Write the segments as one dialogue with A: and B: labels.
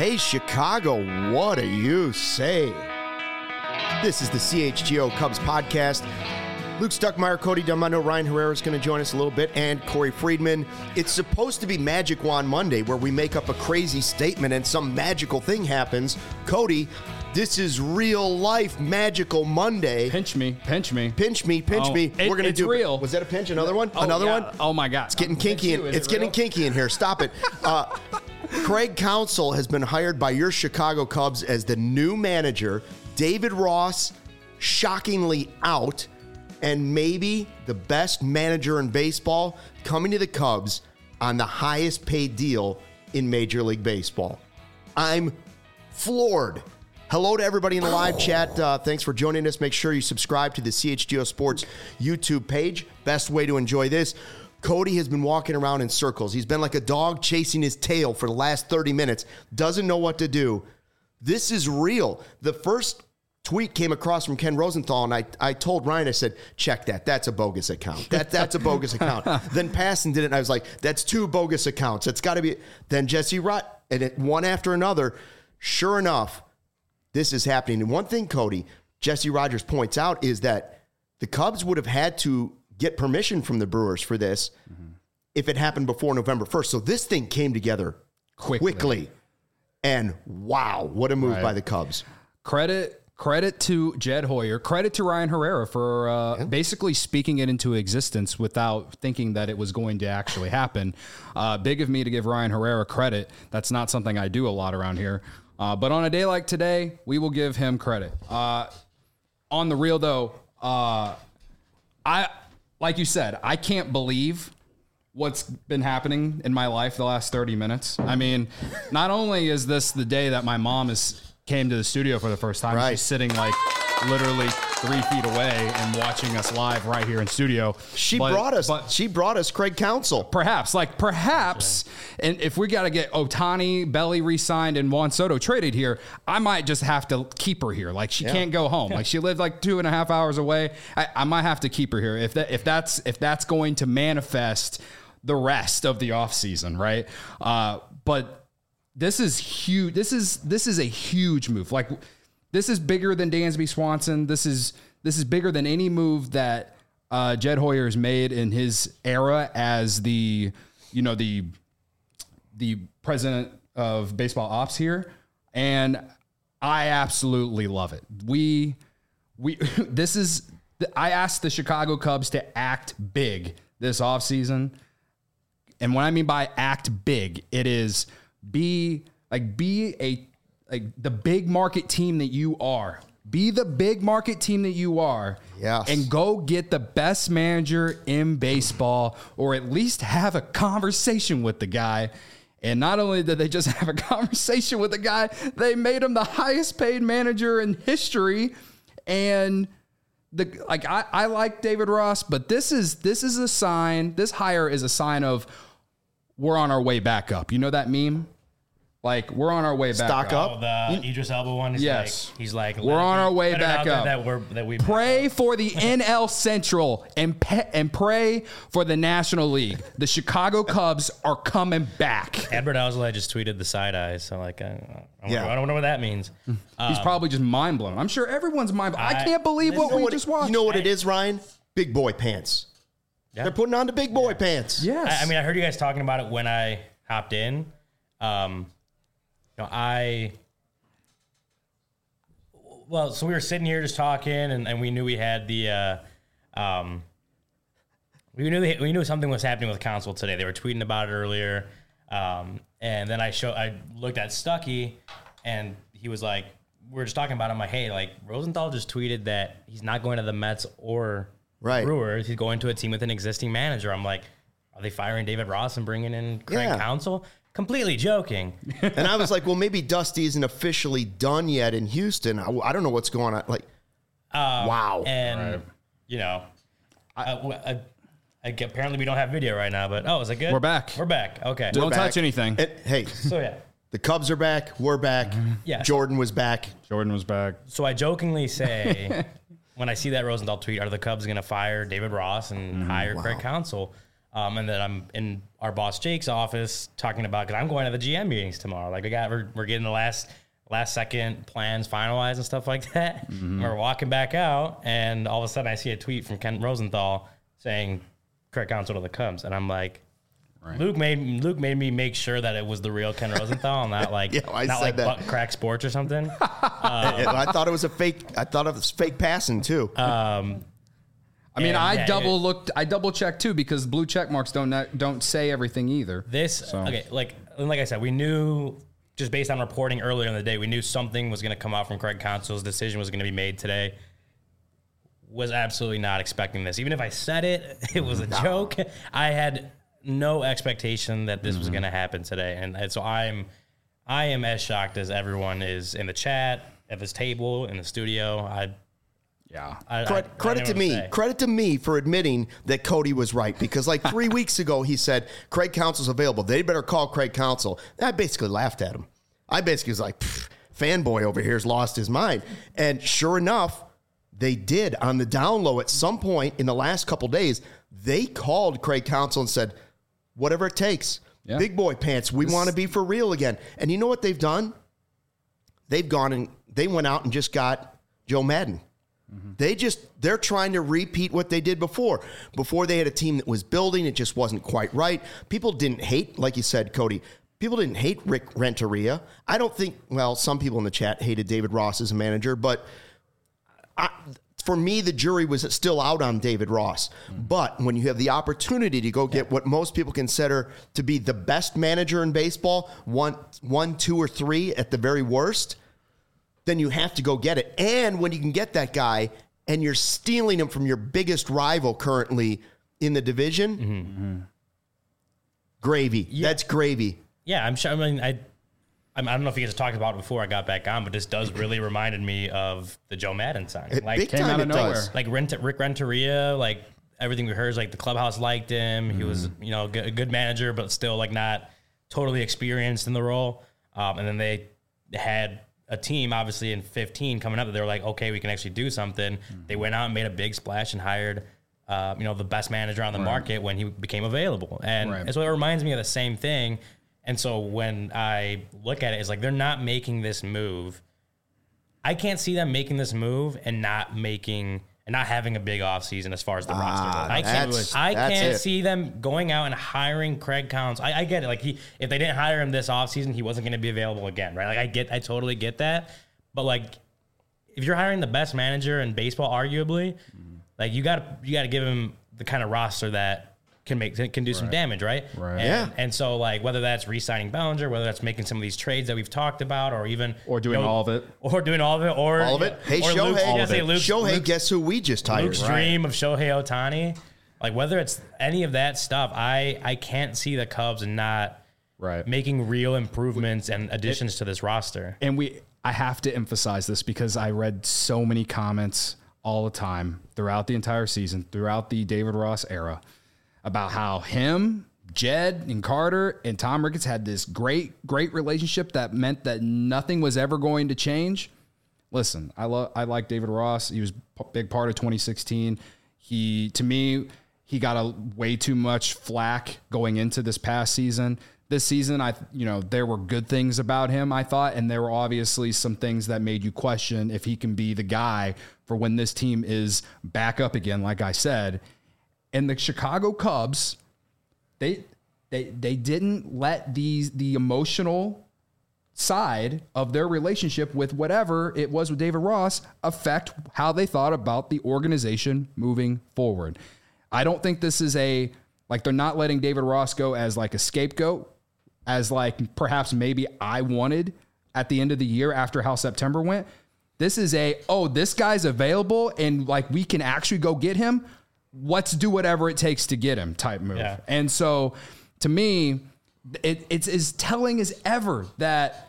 A: Hey, Chicago, what do you say? This is the CHGO Cubs podcast. Luke Stuckmeyer, Cody Delmendo, Ryan Herrera is going to join us a little bit, and Corey Friedman. It's supposed to be Magic Wand Monday, where we make up a crazy statement and some magical thing happens. Cody, this is real life Magical Monday.
B: Pinch me.
A: Pinch me. We're going to do
B: real.
A: Was that a pinch? Another one? Another one?
B: Oh my God.
A: It's getting kinky. It's getting kinky in here. Stop it. Craig Counsell has been hired by your Chicago Cubs as the new manager. David Ross, shockingly out, and maybe the best manager in baseball coming to the Cubs on the highest paid deal in Major League Baseball. I'm floored. Hello to everybody in the live chat. Thanks for joining us. Make sure you subscribe to the CHGO Sports YouTube page. Best way to enjoy this. Cody has been walking around in circles. He's been like a dog chasing his tail for the last 30 minutes. Doesn't know what to do. This is real. The first tweet came across from Ken Rosenthal, and I told Ryan, I said, check that. That's a bogus account. That's a bogus account. Then Passan did it, and I was like, that's two bogus accounts. It's got to be. Then Jesse Rutt, and one after another. Sure enough, this is happening. And one thing, Cody, Jesse Rogers points out is that the Cubs would have had to get permission from the Brewers for this if it happened before November 1st. So this thing came together quickly. And wow, what a move by the Cubs.
B: Credit to Jed Hoyer. Credit to Ryan Herrera for basically speaking it into existence without thinking that it was going to actually happen. Big of me to give Ryan Herrera credit. That's not something I do a lot around here. But on a day like today, we will give him credit. On the real, though, like you said, I can't believe what's been happening in my life the last 30 minutes. I mean, not only is this the day that my mom came to the studio for the first time, she's sitting like literally 3 feet away and watching us live right here in studio.
A: She brought us Craig Counsell.
B: Perhaps, and if we got to get Ohtani, Belly re-signed, and Juan Soto traded here, I might just have to keep her here. Like she can't go home. Like she lived like 2.5 hours away. I might have to keep her here if that's going to manifest the rest of the offseason, right? But this is huge. This is a huge move. Like this is bigger than Dansby Swanson. This is bigger than any move that Jed Hoyer has made in his era as the president of baseball ops here, and I absolutely love it. I asked the Chicago Cubs to act big this offseason. And what I mean by act big, it is be the big market team that you are. Be the big market team that you are.
A: Yes.
B: And go get the best manager in baseball, or at least have a conversation with the guy. And not only did they just have a conversation with the guy, they made him the highest paid manager in history. And I like David Ross, but this is a sign. This hire is a sign of we're on our way back up. You know that meme? Like we're on our way back
A: Stock up.
C: Oh, the Idris Elba one.
B: Yes,
C: he's like
B: we're on our way back up.
C: That we
B: pray for the NL Central and pray for the National League. The Chicago Cubs are coming back.
C: Edward Alzolay just tweeted the side eye, so like I don't know what that means.
B: He's probably just mind blown. I'm sure everyone's mind blown. I can't believe what we just watched.
A: You know what it is, Ryan? Big boy pants. Yeah. They're putting on the big boy pants.
B: Yes.
C: I mean, I heard you guys talking about it when I hopped in. So we were sitting here just talking, and we knew we had the, we knew something was happening with Counsell today. They were tweeting about it earlier, and then I looked at Stuckey, and he was like, we were just talking about it. I'm like, hey, like Rosenthal just tweeted that he's not going to the Mets or Brewers. He's going to a team with an existing manager. I'm like, are they firing David Ross and bringing in Craig Counsell? Completely joking.
A: And I was like, well, maybe Dusty isn't officially done yet in Houston. I don't know what's going on. Like, wow.
C: And, apparently we don't have video right now, but, is it good?
B: We're back.
C: Okay.
B: Don't touch anything.
A: Hey.
C: So, yeah.
A: The Cubs are back. We're back.
C: Yeah.
A: Jordan was back.
C: So I jokingly say, when I see that Rosenthal tweet, are the Cubs going to fire David Ross and hire Craig Counsell? And then I'm in our boss Jake's office talking about, because I'm going to the GM meetings tomorrow. Like we're getting the last second plans finalized and stuff like that. And we're walking back out, and all of a sudden I see a tweet from Ken Rosenthal saying Craig Counsell to the Cubs, and I'm like, right. Luke made me make sure that it was the real Ken Rosenthal, and not like Butt Crack Sports or something.
A: I thought it was fake passing too.
B: I mean, I double checked too, because blue check marks don't say everything either.
C: Okay, like I said, we knew just based on reporting earlier in the day, we knew something was going to come out from Craig Counsell's decision was going to be made today. Was absolutely not expecting this. Even if I said it, it was a joke. I had no expectation that this was going to happen today, and so I am as shocked as everyone is in the chat, at this table, in the studio.
A: Credit to me for admitting that Cody was right, because like 3 weeks ago he said Craig Counsell's available. They better call Craig Counsell. I basically laughed at him. I basically was like, fanboy over here's lost his mind. And sure enough, they did on the down low at some point in the last couple days. They called Craig Counsell and said, whatever it takes. Yeah. Big boy pants. We want to be for real again. And you know what they've done? They've gone and they went out and just got Joe Maddon. They're trying to repeat what they did before. Before they had a team that was building, it just wasn't quite right. People didn't hate, like you said, Cody, people didn't hate Rick Renteria. I don't think, well, some people in the chat hated David Ross as a manager, but for me, the jury was still out on David Ross. But when you have the opportunity to go get what most people consider to be the best manager in baseball, one, two, or three at the very worst, then you have to go get it. And when you can get that guy and you're stealing him from your biggest rival currently in the division, gravy. Yeah. That's gravy.
C: Yeah, I'm sure. I mean, I don't know if you guys talked about it before I got back on, but this does really reminded me of the Joe Maddon signing.
A: Like, big time it does.
C: Like Rick Renteria, like everything we heard is like the clubhouse liked him. He was, a good manager, but still like not totally experienced in the role. And then they had a team, obviously in 15 coming up, that they were like, okay, we can actually do something. They went out and made a big splash and hired, the best manager on the market when he became available. And so it reminds me of the same thing. And so when I look at it, it's like they're not making this move. I can't see them making this move and not having a big offseason as far as the roster goes. I can't see them going out and hiring Craig Counsell. I get it. Like if they didn't hire him this offseason, he wasn't going to be available again, right? Like I totally get that. But like if you're hiring the best manager in baseball, arguably, like you got to give him the kind of roster that can do some damage, right?
A: Right.
C: And so like whether that's re-signing Bellinger, whether that's making some of these trades that we've talked about, or
B: doing all of it,
A: or all of it. Hey, Shohei, guess who we just hired?
C: Luke's dream of Shohei Ohtani. Like whether it's any of that stuff, I can't see the Cubs not making real improvements and additions to this roster.
B: And I have to emphasize this because I read so many comments all the time throughout the entire season, throughout the David Ross era, about how him, Jed, and Carter and Tom Ricketts had this great relationship that meant that nothing was ever going to change. Listen, I like David Ross. He was a big part of 2016. To me, he got a way too much flack going into this past season. This season, there were good things about him, I thought, and there were obviously some things that made you question if he can be the guy for when this team is back up again, like I said. And the Chicago Cubs, they didn't let the emotional side of their relationship with whatever it was with David Ross affect how they thought about the organization moving forward. I don't think this is they're not letting David Ross go as like a scapegoat, as like perhaps maybe I wanted at the end of the year after how September went. This is this guy's available and like we can actually go get him. Let's do whatever it takes to get him type move. Yeah. And so to me, it's as telling as ever that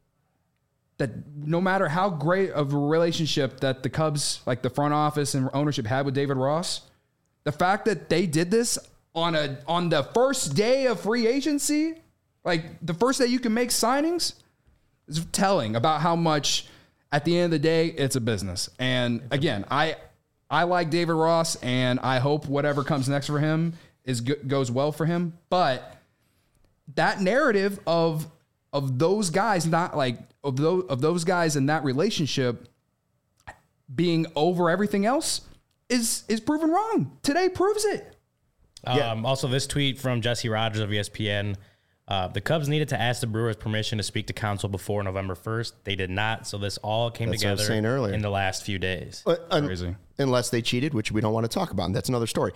B: no matter how great of a relationship that the Cubs, like the front office and ownership had with David Ross, the fact that they did this on the first day of free agency, like the first day you can make signings, is telling about how much at the end of the day, it's a business. And again, I like David Ross, and I hope whatever comes next for him goes well for him. But that narrative of those guys, not like of those guys in that relationship being over everything else is proven wrong. Today proves it.
C: Also, this tweet from Jesse Rogers of ESPN. The Cubs needed to ask the Brewers permission to speak to counsel before November 1st. They did not, so this all came together in the last few days.
B: Crazy.
A: Unless they cheated, which we don't want to talk about. And that's another story.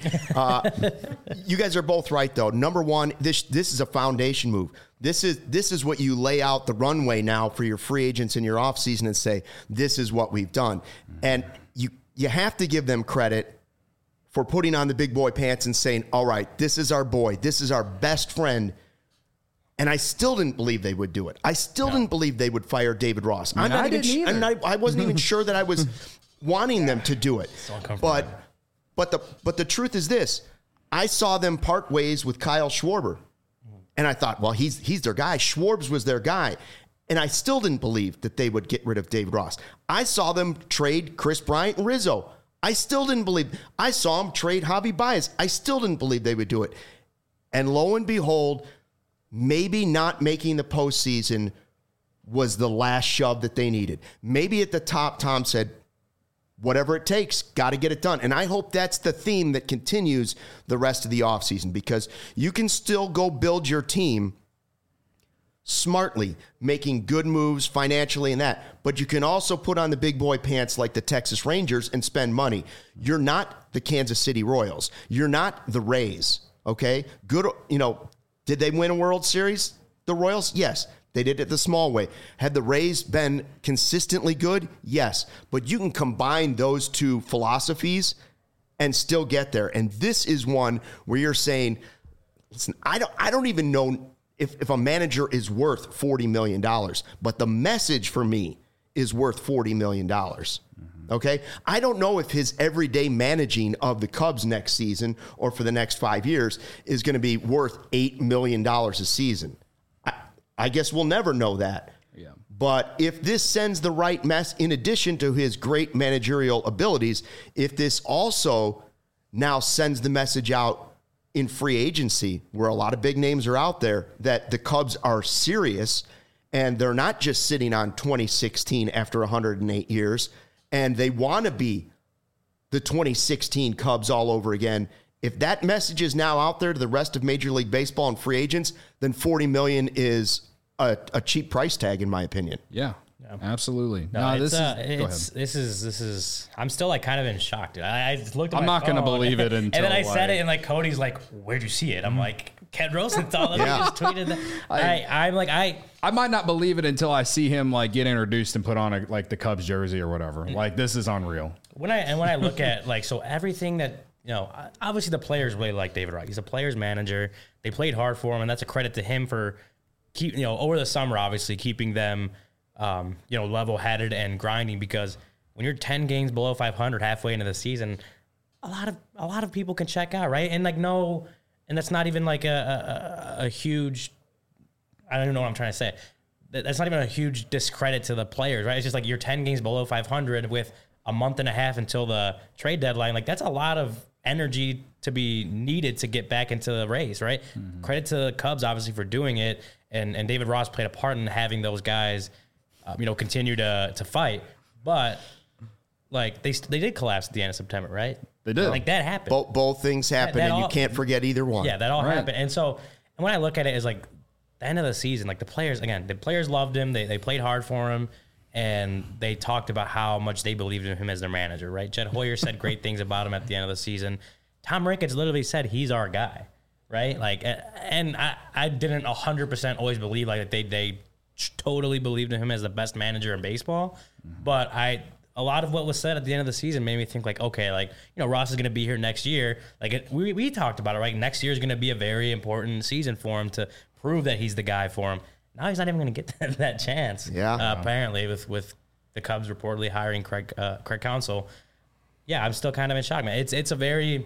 A: You guys are both right, though. Number one, this is a foundation move. This is what you lay out the runway now for your free agents in your offseason and say, this is what we've done. And you have to give them credit for putting on the big boy pants and saying, all right, this is our boy. This is our best friend. And I still didn't believe they would do it. I still didn't believe they would fire David Ross. I wasn't even sure that I was wanting them to do it. But the truth is this. I saw them part ways with Kyle Schwarber. And I thought, well, he's their guy. Schwarbs was their guy. And I still didn't believe that they would get rid of David Ross. I saw them trade Chris Bryant and Rizzo. I still didn't believe. I saw them trade Javi Baez. I still didn't believe they would do it. And lo and behold, maybe not making the postseason was the last shove that they needed. Maybe at the top, Tom said, whatever it takes, got to get it done. And I hope that's the theme that continues the rest of the offseason, because you can still go build your team smartly, making good moves financially and that. But you can also put on the big boy pants like the Texas Rangers and spend money. You're not the Kansas City Royals. You're not the Rays, okay? Good, did they win a World Series, the Royals? Yes. They did it the small way. Had the Rays been consistently good? Yes. But you can combine those two philosophies and still get there. And this is one where you're saying, listen, I don't even know if a manager is worth $40 million, but the message for me is worth $40 million. Okay? I don't know if his everyday managing of the Cubs next season or for the next 5 years is going to be worth $8 million a season. I guess we'll never know that. Yeah. But if this sends the right mess, in addition to his great managerial abilities, if this also now sends the message out in free agency, where a lot of big names are out there, that the Cubs are serious and they're not just sitting on 2016 after 108 years, and they want to be the 2016 Cubs all over again. If that message is now out there to the rest of Major League Baseball and free agents, then $40 million is a cheap price tag, in my opinion.
B: Yeah. Absolutely.
C: This is. I'm still like kind of in shock, dude. I just looked at
B: I'm not going to believe it until.
C: And then I said it, and like Cody's like, "Where'd you see it?" I'm like, Ken Rosenthal. Let me just tweeted that. I
B: might not believe it until I see him like get introduced and put on the Cubs jersey or whatever. Like, this is unreal.
C: When I look at so everything that obviously the players really like David Ross. He's a player's manager. They played hard for him, and that's a credit to him for over the summer, obviously keeping them. Level-headed and grinding, because when you're 10 games below 500 halfway into the season, a lot of people can check out, right? And and that's not even like a huge, I don't even know what I'm trying to say. That's not even a huge discredit to the players, right? It's just like you're 10 games below 500 with a month and a half until the trade deadline. Like, that's a lot of energy to be needed to get back into the race, right? Mm-hmm. Credit to the Cubs, obviously, for doing it. And David Ross played a part in having those guys continue to fight, but like they did collapse at the end of September, right?
B: They did.
C: Like, that happened.
A: Both things happened, and you can't forget either one.
C: Yeah, that all happened. And when I look at it, as like the end of the season, like the players loved him. They played hard for him, and they talked about how much they believed in him as their manager, right? Jed Hoyer said great things about him at the end of the season. Tom Ricketts literally said he's our guy, right? Like, and I didn't 100% always believe like they totally believed in him as the best manager in baseball. Mm-hmm. But a lot of what was said at the end of the season made me think like, okay, like, Ross is going to be here next year. Like, we talked about it, right? Next year is going to be a very important season for him to prove that he's the guy for him. Now he's not even going to get that chance.
A: Yeah.
C: Apparently with the Cubs reportedly hiring Craig Counsell. Yeah, I'm still kind of in shock, man. It's a very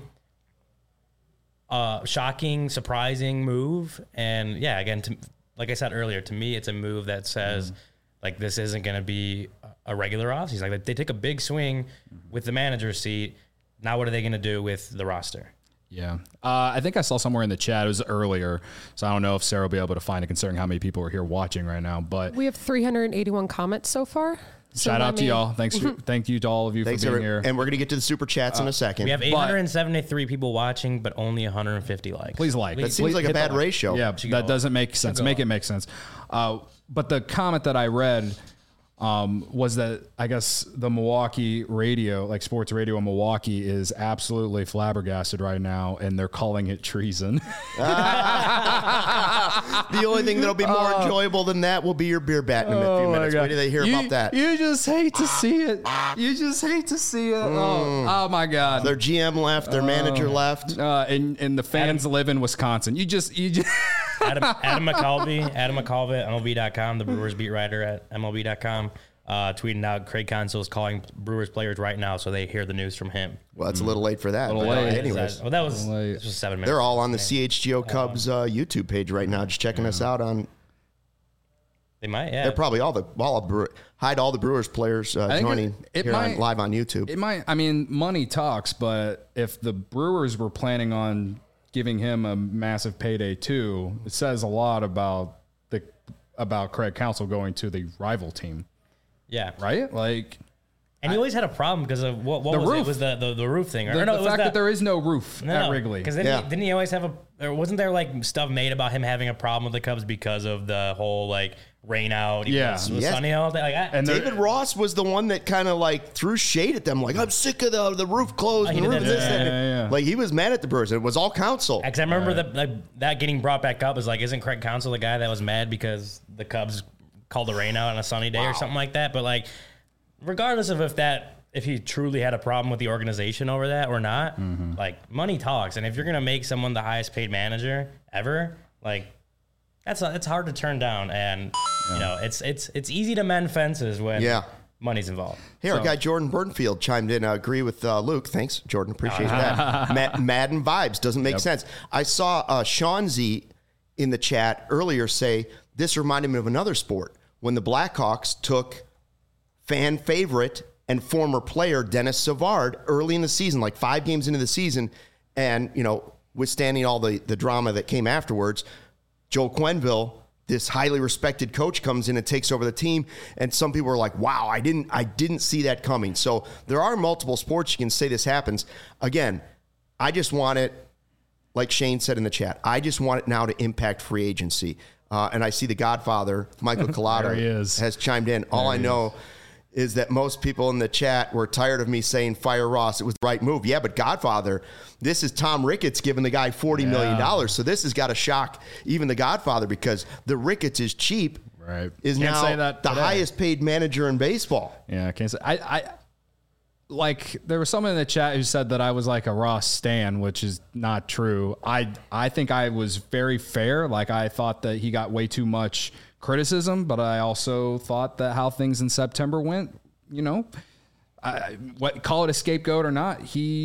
C: shocking, surprising move. And yeah, again, like I said earlier, to me, it's a move that says, like, this isn't going to be a regular offseason. Like, they take a big swing with the manager's seat. Now what are they going to do with the roster?
B: Yeah. I think I saw somewhere in the chat, it was earlier, so I don't know if Sarah will be able to find it considering how many people are here watching right now. But
D: we have 381 comments so far.
B: Shout out to y'all. Thank you to all of you for being here.
A: And we're going to get to the super chats in a second.
C: We have 873 people watching, but only 150 likes.
B: Please like.
A: That seems like a bad ratio.
B: Yeah, that doesn't make sense. Make it make sense. But the comment that I read was that I guess the Milwaukee radio, like sports radio in Milwaukee, is absolutely flabbergasted right now, and they're calling it treason.
A: The only thing that'll be more enjoyable than that will be your beer bat in a few minutes. Wait till they hear about that.
B: You just hate to see it. You just hate to see it. Oh my God.
A: Their GM left. Their manager left.
B: And the fans live in Wisconsin. You just.
C: Adam McCalvey at MLB.com, the Brewers beat writer at MLB.com, tweeting out Craig Counsell is calling Brewers players right now, so they hear the news from him.
A: Well, it's a little late for that.
B: A little late.
A: Anyways,
C: that was just 7 minutes.
A: they're all on the CHGO Cubs YouTube page right now, just checking us out on.
C: They might, yeah.
A: They're probably all the Brewers players joining live on YouTube.
B: It might. I mean, money talks, but if the Brewers were planning on giving him a massive payday too, it says a lot about Craig Counsell going to the rival team.
C: Yeah.
B: Right? Like,
C: and he always had a problem because of what was
B: roof.
C: it? It was the roof thing.
B: The fact that there is no roof at Wrigley.
C: Because didn't he always have wasn't there like stuff made about him having a problem with the Cubs because of the whole like rain out? It was sunny all day. Like,
A: and David Ross was the one that kind of like threw shade at them. Like, I'm sick of the roof closed. And the roof this. Like, he was mad at the Brewers. It was all Counsell.
C: Because I remember that getting brought back up is like, isn't Craig Counsell the guy that was mad because the Cubs called the rain out on a sunny day or something like that? But like, regardless of if he truly had a problem with the organization over that or not, like, money talks. And if you're going to make someone the highest paid manager ever, like, it's hard to turn down. And, you know, it's easy to mend fences when money's involved.
A: Hey, our guy Jordan Burnfield chimed in. I agree with Luke. Thanks, Jordan. Appreciate that. Madden vibes. Doesn't make sense. I saw Sean Z in the chat earlier say, this reminded me of another sport. When the Blackhawks took fan favorite and former player Dennis Savard early in the season, like 5 games into the season, and, you know, withstanding all the drama that came afterwards, Joe Quenneville, this highly respected coach, comes in and takes over the team, and some people are like, wow, I didn't see that coming. So there are multiple sports you can say this happens. Again, I just want it, like Shane said in the chat, I just want it now to impact free agency. And I see the Godfather, Michael Collada, has chimed in. All I know is that most people in the chat were tired of me saying fire Ross. It was the right move. Yeah, but Godfather, this is Tom Ricketts giving the guy $40 million. So this has got to shock even the Godfather, because the Ricketts is cheap.
B: Right.
A: Is can't now the highest paid manager in baseball.
B: Yeah, I can't say. I like, there was someone in the chat who said that I was like a Ross stan, which is not true. I think I was very fair. Like, I thought that he got way too much criticism, but I also thought that how things in September went, you know, call it a scapegoat or not,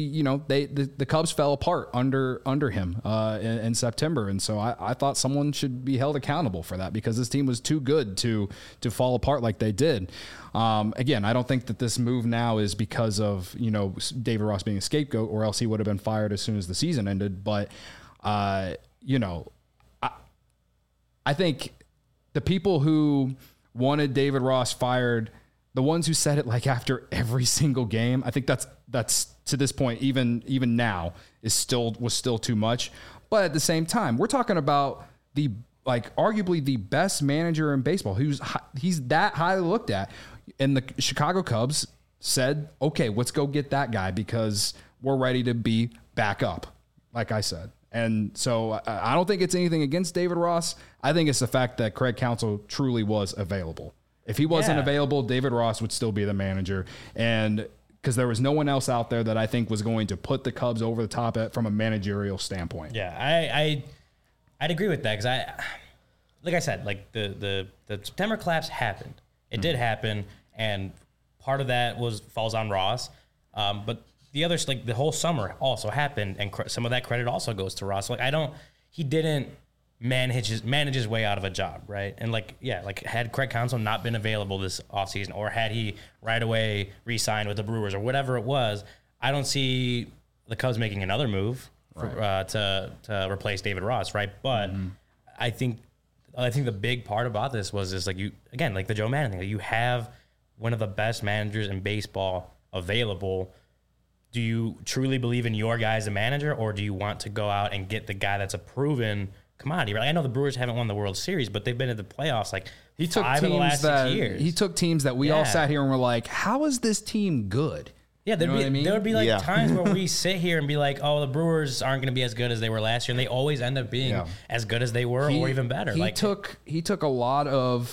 B: the Cubs fell apart under him in September, and so I thought someone should be held accountable for that, because this team was too good to fall apart like they did. Again, I don't think that this move now is because of, you know, David Ross being a scapegoat, or else he would have been fired as soon as the season ended. But you know, I think the people who wanted David Ross fired, the ones who said it like after every single game, I think that's to this point, even now, was still too much. But at the same time, we're talking about arguably the best manager in baseball, he's that highly looked at. And the Chicago Cubs said, okay, let's go get that guy because we're ready to be back up, like I said. And so I don't think it's anything against David Ross. I think it's the fact that Craig Counsell truly was available. If he wasn't available, David Ross would still be the manager. And because there was no one else out there that I think was going to put the Cubs over the top from a managerial standpoint.
C: Yeah, I'd agree with that, because like I said, like the September collapse happened. It did happen, and part of that falls on Ross. But the others, like the whole summer also happened, and some of that credit also goes to Ross. Like, he didn't manage his way out of a job, right? And had Craig Counsell not been available this offseason, or had he right away re-signed with the Brewers or whatever it was, I don't see the Cubs making another move to replace David Ross, right? But I think the big part about this was just like the Joe Maddon thing. Like, you have one of the best managers in baseball available. Do you truly believe in your guy as a manager, or do you want to go out and get the guy that's a proven commodity? Right? I know the Brewers haven't won the World Series, but they've been in the playoffs like
B: he took
C: 5 of the last 6 years.
B: He took teams that we all sat here and were like, how is this team good?
C: Yeah, there would be like times where we sit here and be like, oh, the Brewers aren't going to be as good as they were last year, and they always end up being as good as they were or even better.
B: He took a lot of,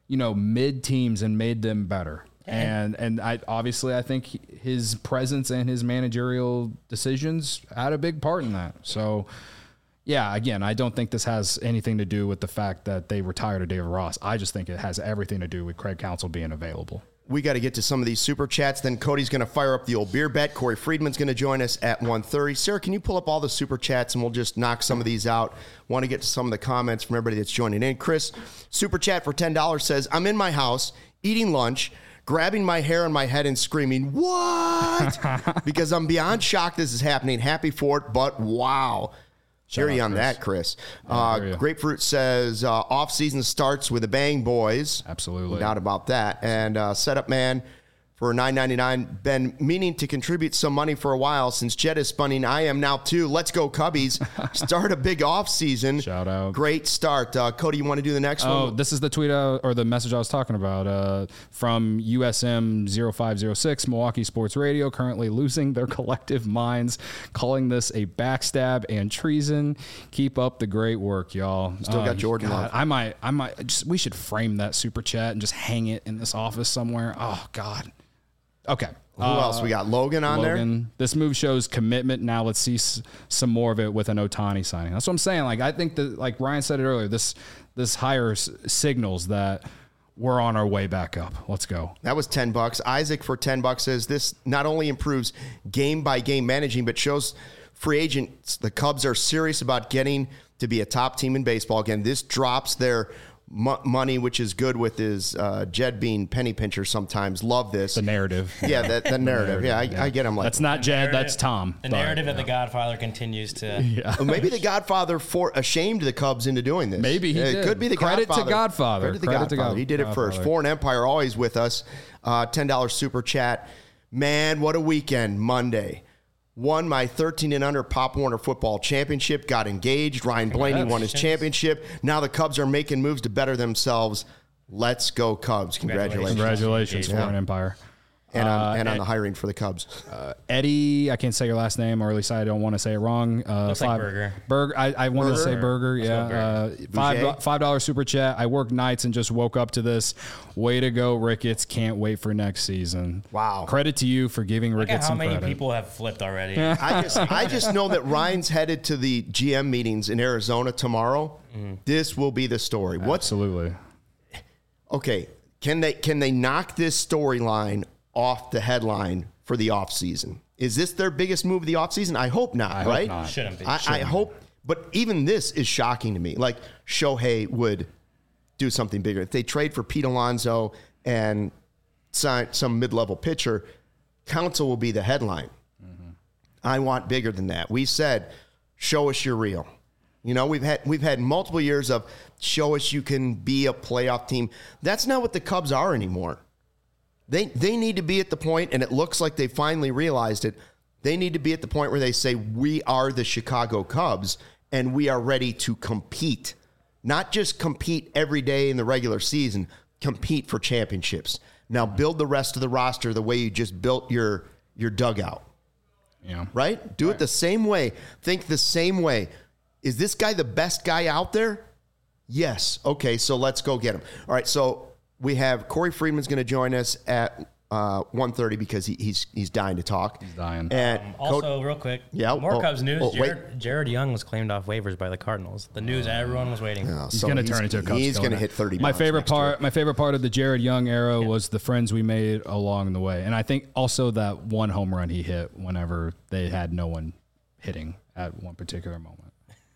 B: mid teams and made them better. And I think his presence and his managerial decisions had a big part in that. So, yeah, again, I don't think this has anything to do with the fact that they retired David Ross. I just think it has everything to do with Craig Counsell being available.
A: We got to get to some of these super chats. Then Cody's going to fire up the old beer bet. Corey Friedman's going to join us at 1:30. Sarah, can you pull up all the super chats and we'll just knock some of these out? Want to get to some of the comments from everybody that's joining in. Chris, super chat for $10 says, I'm in my house eating lunch, grabbing my hair on my head and screaming, what? Because I'm beyond shocked this is happening. Happy for it, but wow. Hear you on that, Chris. Grapefruit says, off-season starts with a bang, boys.
B: Absolutely.
A: No doubt about that. And Setup Man for $9.99. Been meaning to contribute some money for a while since Jed is spunning. I am now too. Let's go Cubbies. Start a big off-season.
B: Shout out.
A: Great start. Cody, you want to do the next one?
B: Oh, this is the tweet or the message I was talking about from USM 0506, Milwaukee Sports Radio, currently losing their collective minds, calling this a backstab and treason. Keep up the great work, y'all.
A: Still got Jordan Love.
B: I might we should frame that super chat and just hang it in this office somewhere. Oh God. Okay.
A: Who else? We got Logan on there.
B: This move shows commitment. Now let's see some more of it with an Ohtani signing. That's what I'm saying. Like, I think that, like Ryan said it earlier, this hire signals that we're on our way back up. Let's go.
A: That was $10. Isaac for $10 says this not only improves game by game managing, but shows free agents the Cubs are serious about getting to be a top team in baseball again. This drops their money, which is good with his Jed being penny pincher sometimes. Love this.
B: The narrative.
A: Yeah, the narrative. Yeah, I get him. Like,
B: that's not Jed, that's Tom.
C: The narrative that The Godfather continues to...
A: Well, maybe The Godfather ashamed the Cubs into doing this.
B: Maybe he did.
A: It could be The
B: Credit
A: Godfather.
B: to Godfather.
A: Credit to Godfather. He did it first. Foreign Empire always with us. $10 super chat. Man, what a weekend. Monday. Won my 13 and under Pop Warner football championship, got engaged. Ryan Blaney won his championship. Now the Cubs are making moves to better themselves. Let's go Cubs.
B: Congratulations, Foreign Empire.
A: And on the hiring for the Cubs.
B: Eddie, I can't say your last name, or at least I don't want to say it wrong.
C: Looks like Burger.
B: Burger. I wanted to say Burger. Yeah. $5 super chat. I work nights and just woke up to this. Way to go, Ricketts. Can't wait for next season.
A: Wow.
B: Credit to you for giving Ricketts some credit.
C: How many people have flipped already?
A: I just know that Ryan's headed to the GM meetings in Arizona tomorrow. This will be the story.
B: Absolutely.
A: Okay. Can they knock this storyline off the headline for the offseason? Is this their biggest move of the offseason? I hope not, right?
B: Hope not.
C: Shouldn't be.
A: I hope, but even this is shocking to me. Like, Shohei would do something bigger. If they trade for Pete Alonso and sign some mid-level pitcher, Counsell will be the headline. I want bigger than that. We said, show us you're real. We've had multiple years of show us you can be a playoff team. That's not what the Cubs are anymore. They need to be at the point, and it looks like they finally realized it, they need to be at the point where they say, we are the Chicago Cubs, and we are ready to compete. Not just compete every day in the regular season, compete for championships. Now build the rest of the roster the way you just built your dugout.
B: Yeah.
A: Right? Do it the same way. Think the same way. Is this guy the best guy out there? Yes. Okay, so let's go get him. All right, so we have Corey Friedman's going to join us at 1:30 because he's dying to talk.
B: He's dying.
C: And also, real quick, more Cubs news. Jared Young was claimed off waivers by the Cardinals. The news everyone was waiting for.
B: He's going to turn into a Cubs.
A: He's going to hit 30.
B: My favorite part of the Jared Young era was the friends we made along the way, and I think also that one home run he hit whenever they had no one hitting at one particular moment.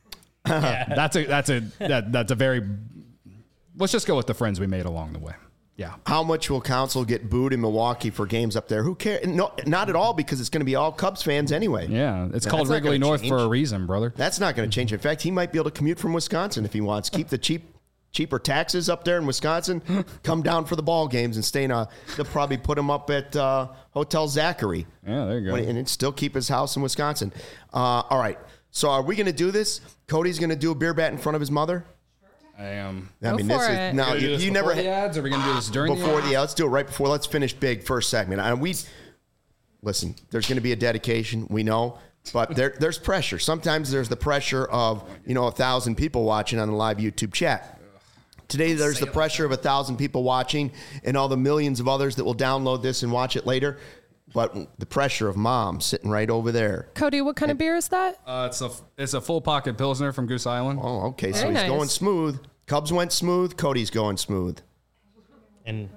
B: That's a very. Let's just go with the friends we made along the way. Yeah.
A: How much will Council get booed in Milwaukee for games up there? Who cares? No, not at all, because it's going to be all Cubs fans anyway.
B: Yeah, it's
A: That's
B: called
A: not
B: Wrigley
A: gonna
B: North
A: change.
B: for a reason, brother.
A: That's not going to change. In fact, he might be able to commute from Wisconsin if he wants. Keep the cheaper taxes up there in Wisconsin. Come down for the ball games and stay in a. They'll probably put him up at Hotel Zachary.
B: Yeah, there you go.
A: And still keep his house in Wisconsin. All right. So are we going to do this? Cody's going to do a beer bat in front of his mother.
B: I am.
A: I
D: Go
A: mean,
D: for
A: this
D: it.
A: is now
C: We're gonna do this
A: you never
B: Before the ads? Are we going to do this during
A: before
B: the ads?
A: let's do it right before. Let's finish big first segment. And listen. There's going to be a dedication. We know. But there's pressure. Sometimes there's the pressure of 1,000 people watching on the live YouTube chat. Today there's the pressure of 1,000 people watching and all the millions of others that will download this and watch it later. But the pressure of Mom sitting right over there.
D: Cody, what kind of beer is that?
B: It's a full pocket Pilsner from Goose Island.
A: Oh, okay. So
D: Very
A: he's
D: nice.
A: going smooth. Cubs went smooth. Cody's going smooth.
C: And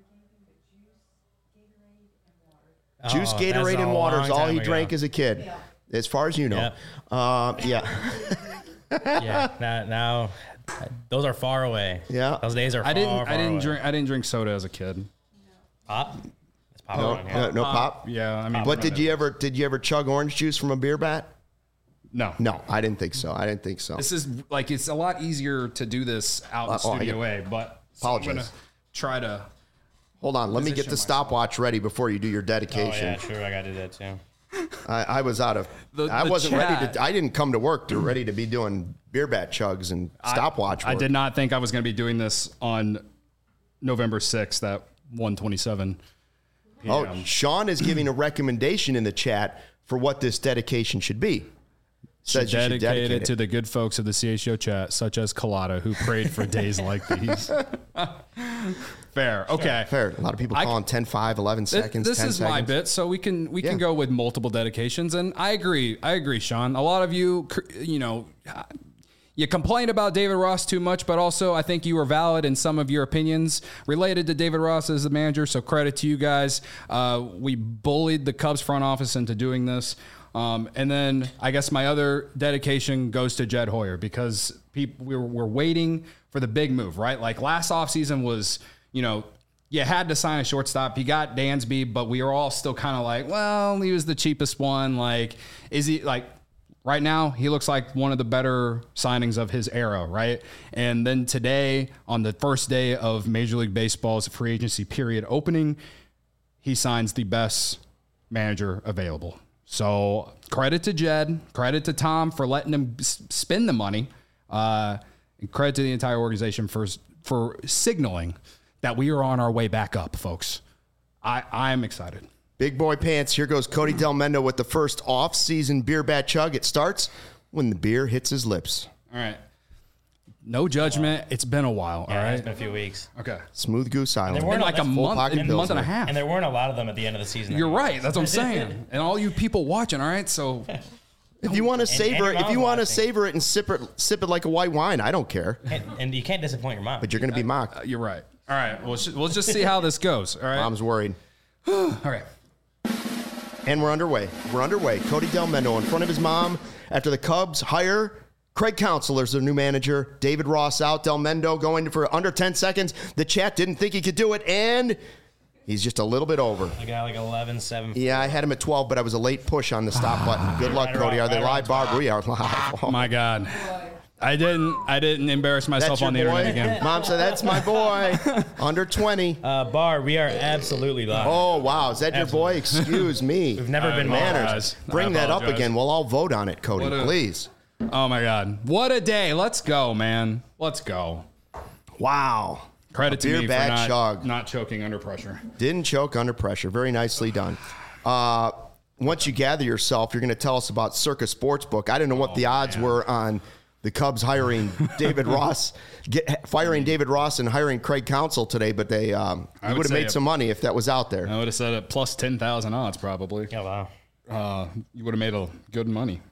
A: Juice,
C: Oh,
A: Gatorade,
C: that's
A: and
C: a
A: water is
C: long
A: all
C: time
A: he
C: ago.
A: drank as a kid, as far as you know. Yeah.
C: yeah, now those are far away.
A: Yeah.
C: Those days are far,
B: I didn't
C: away.
B: drink drink soda as a kid.
C: Pop. It's pop.
A: No,
C: on, yeah.
A: no pop.
B: Yeah, I mean,
A: But did you ever chug orange juice from a beer bat?
B: No.
A: No, I didn't think so.
B: This is it's a lot easier to do this out in Studio A, but so I'm
A: Apologize.
B: gonna try to.
A: Hold on, let me get the stopwatch ready before you do your
C: Oh
A: dedication.
C: yeah, sure. I gotta do that too.
A: I was out of. I
B: The
A: wasn't ready
B: chat.
A: to. I didn't come to work to ready to be doing beer bat chugs and stopwatch.
B: I
A: work.
B: did not think I was going to be doing this on November 6th at 1:27.
A: Oh,
B: p.m.
A: Sean is giving a recommendation in the chat for what this dedication should be. Says you should dedicate
B: Dedicated
A: it.
B: to the good folks of the CHO chat, such as Collada, who prayed for days like these. Fair. Okay.
A: Fair. A lot of people calling 10, 5, 11 seconds.
B: This
A: 10
B: is
A: seconds.
B: my bit, so we can
A: Yeah.
B: go with multiple dedications, and I agree, Sean. A lot of you, you complain about David Ross too much, but also I think you were valid in some of your opinions related to David Ross as the manager. So credit to you guys. We bullied the Cubs front office into doing this. And then I guess my other dedication goes to Jed Hoyer because we're waiting for the big move, right? Like last offseason was, you had to sign a shortstop. You got Dansby, but we were all still kind of like, well, he was the cheapest one. Like, is he like right now? He looks like one of the better signings of his era, right? And then today, on the first day of Major League Baseball's free agency period opening, he signs the best manager available. So credit to Jed, credit to Tom for letting him spend the money, and credit to the entire organization for signaling that we are on our way back up, folks. I'm excited.
A: Big boy pants. Here goes Cody Del Mendo with the first off-season beer bat chug. It starts when the beer hits his lips.
B: All right. No judgment. It's been a while.
C: Yeah,
B: all right.
C: it's been a few weeks.
B: Okay.
A: Smooth Goose Island.
C: There weren't
B: Been like a
C: full
B: month,
A: pocket
B: a month and a
A: Pilsner.
B: half.
C: And there weren't a lot of them at the end of the season.
B: You're right. That's what I'm saying. And all you people watching, all right? So
A: If you want to savor it,
C: your
A: if you
C: mom's
A: want to
C: watching.
A: savor it and sip it like a white wine, I don't care.
C: And you can't disappoint your mom.
A: But you're going to be mocked.
B: you're right. All right. We'll just see how this goes. All right.
A: Mom's worried.
B: All right.
A: And we're underway. Cody Del Mendo in front of his mom after the Cubs hire Craig Counsell as their new manager. David Ross out. Del Mendo going for under 10 seconds. The chat didn't think he could do it, and he's just a little bit over.
C: I got like 11-7.
A: Yeah, I had him at 12, but I was a late push on the stop button. Good luck,
C: Right
A: Cody. Are
C: around-
A: they
C: right
A: live,
C: around
A: Barb? We are live.
B: Oh my God. I didn't embarrass myself
A: That's your
B: on the
A: boy?
B: internet again.
A: Mom said, that's my boy. Under 20.
C: Bar, we are absolutely live.
A: Oh, wow. Is that your boy? Excuse me.
C: We've never been
A: Manners.
B: apologize.
A: Bring
B: I
A: that up
B: apologize.
A: again. We'll all vote on it, Cody,
B: What a-
A: please.
B: Oh my God. What a day. Let's go, man. Let's go.
A: Wow.
B: Credit to
A: Beer
B: me
A: bat
B: for
A: chug.
B: not choking under pressure.
A: Didn't choke under pressure. Very nicely done. Once you gather yourself, you're going to tell us about Circa Sportsbook. I don't know what the odds were on the Cubs hiring David Ross, firing David Ross and hiring Craig Counsell today, but they would have
B: say
A: made some money if that was out there.
B: I would have said it plus 10,000 odds probably.
C: Yeah, wow.
B: You would have made a good money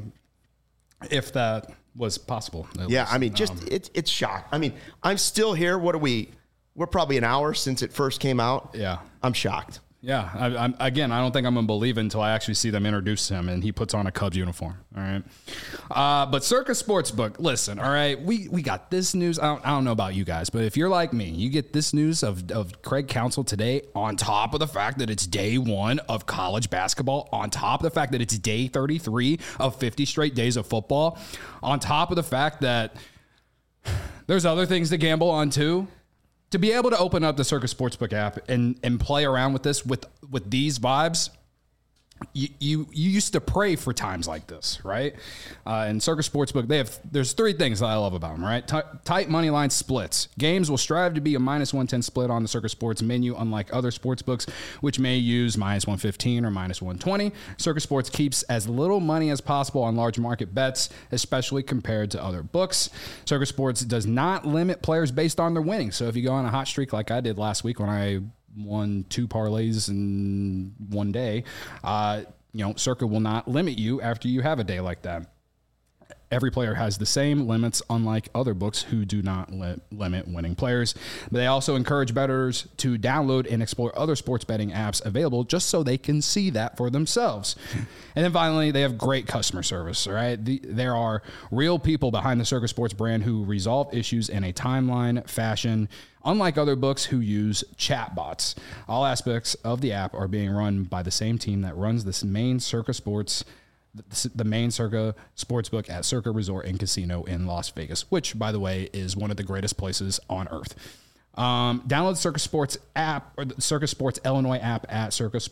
B: if that was possible. at
A: Yeah,
B: least.
A: I mean, just it's shock. I mean, I'm still here. What are we? We're probably an hour since it first came out.
B: Yeah.
A: I'm shocked.
B: Yeah, I don't think I'm going to believe it until I actually see them introduce him and he puts on a Cubs uniform. All right. But Circa Sportsbook, listen, all right, we got this news. I don't know about you guys, but if you're like me, you get this news of Craig Counsell today on top of the fact that it's day 1 of college basketball, on top of the fact that it's day 33 of 50 straight days of football, on top of the fact that there's other things to gamble on too. To be able to open up the Circa Sportsbook app and play around with this with these vibes, you used to pray for times like this, right? In Circa Sportsbook, there's 3 things that I love about them, right? Tight money line splits. Games will strive to be a -110 split on the Circa Sports menu, unlike other sports books, which may use -115 or -120. Circa Sports keeps as little money as possible on large market bets, especially compared to other books. Circa Sports does not limit players based on their winnings. So if you go on a hot streak like I did last week when I won 2 parlays in one day, Circa will not limit you after you have a day like that. Every player has the same limits, unlike other books who do not limit winning players. But they also encourage bettors to download and explore other sports betting apps available just so they can see that for themselves. And then finally, they have great customer service, all right? There are real people behind the Circa Sports brand who resolve issues in a timeline fashion, unlike other books who use chatbots. All aspects of the app are being run by the same team that runs the main Circa Sports Sportsbook at Circa Resort and Casino in Las Vegas, which, by the way, is one of the greatest places on earth. Download the Circa Sports app or the Circa Sports Illinois app at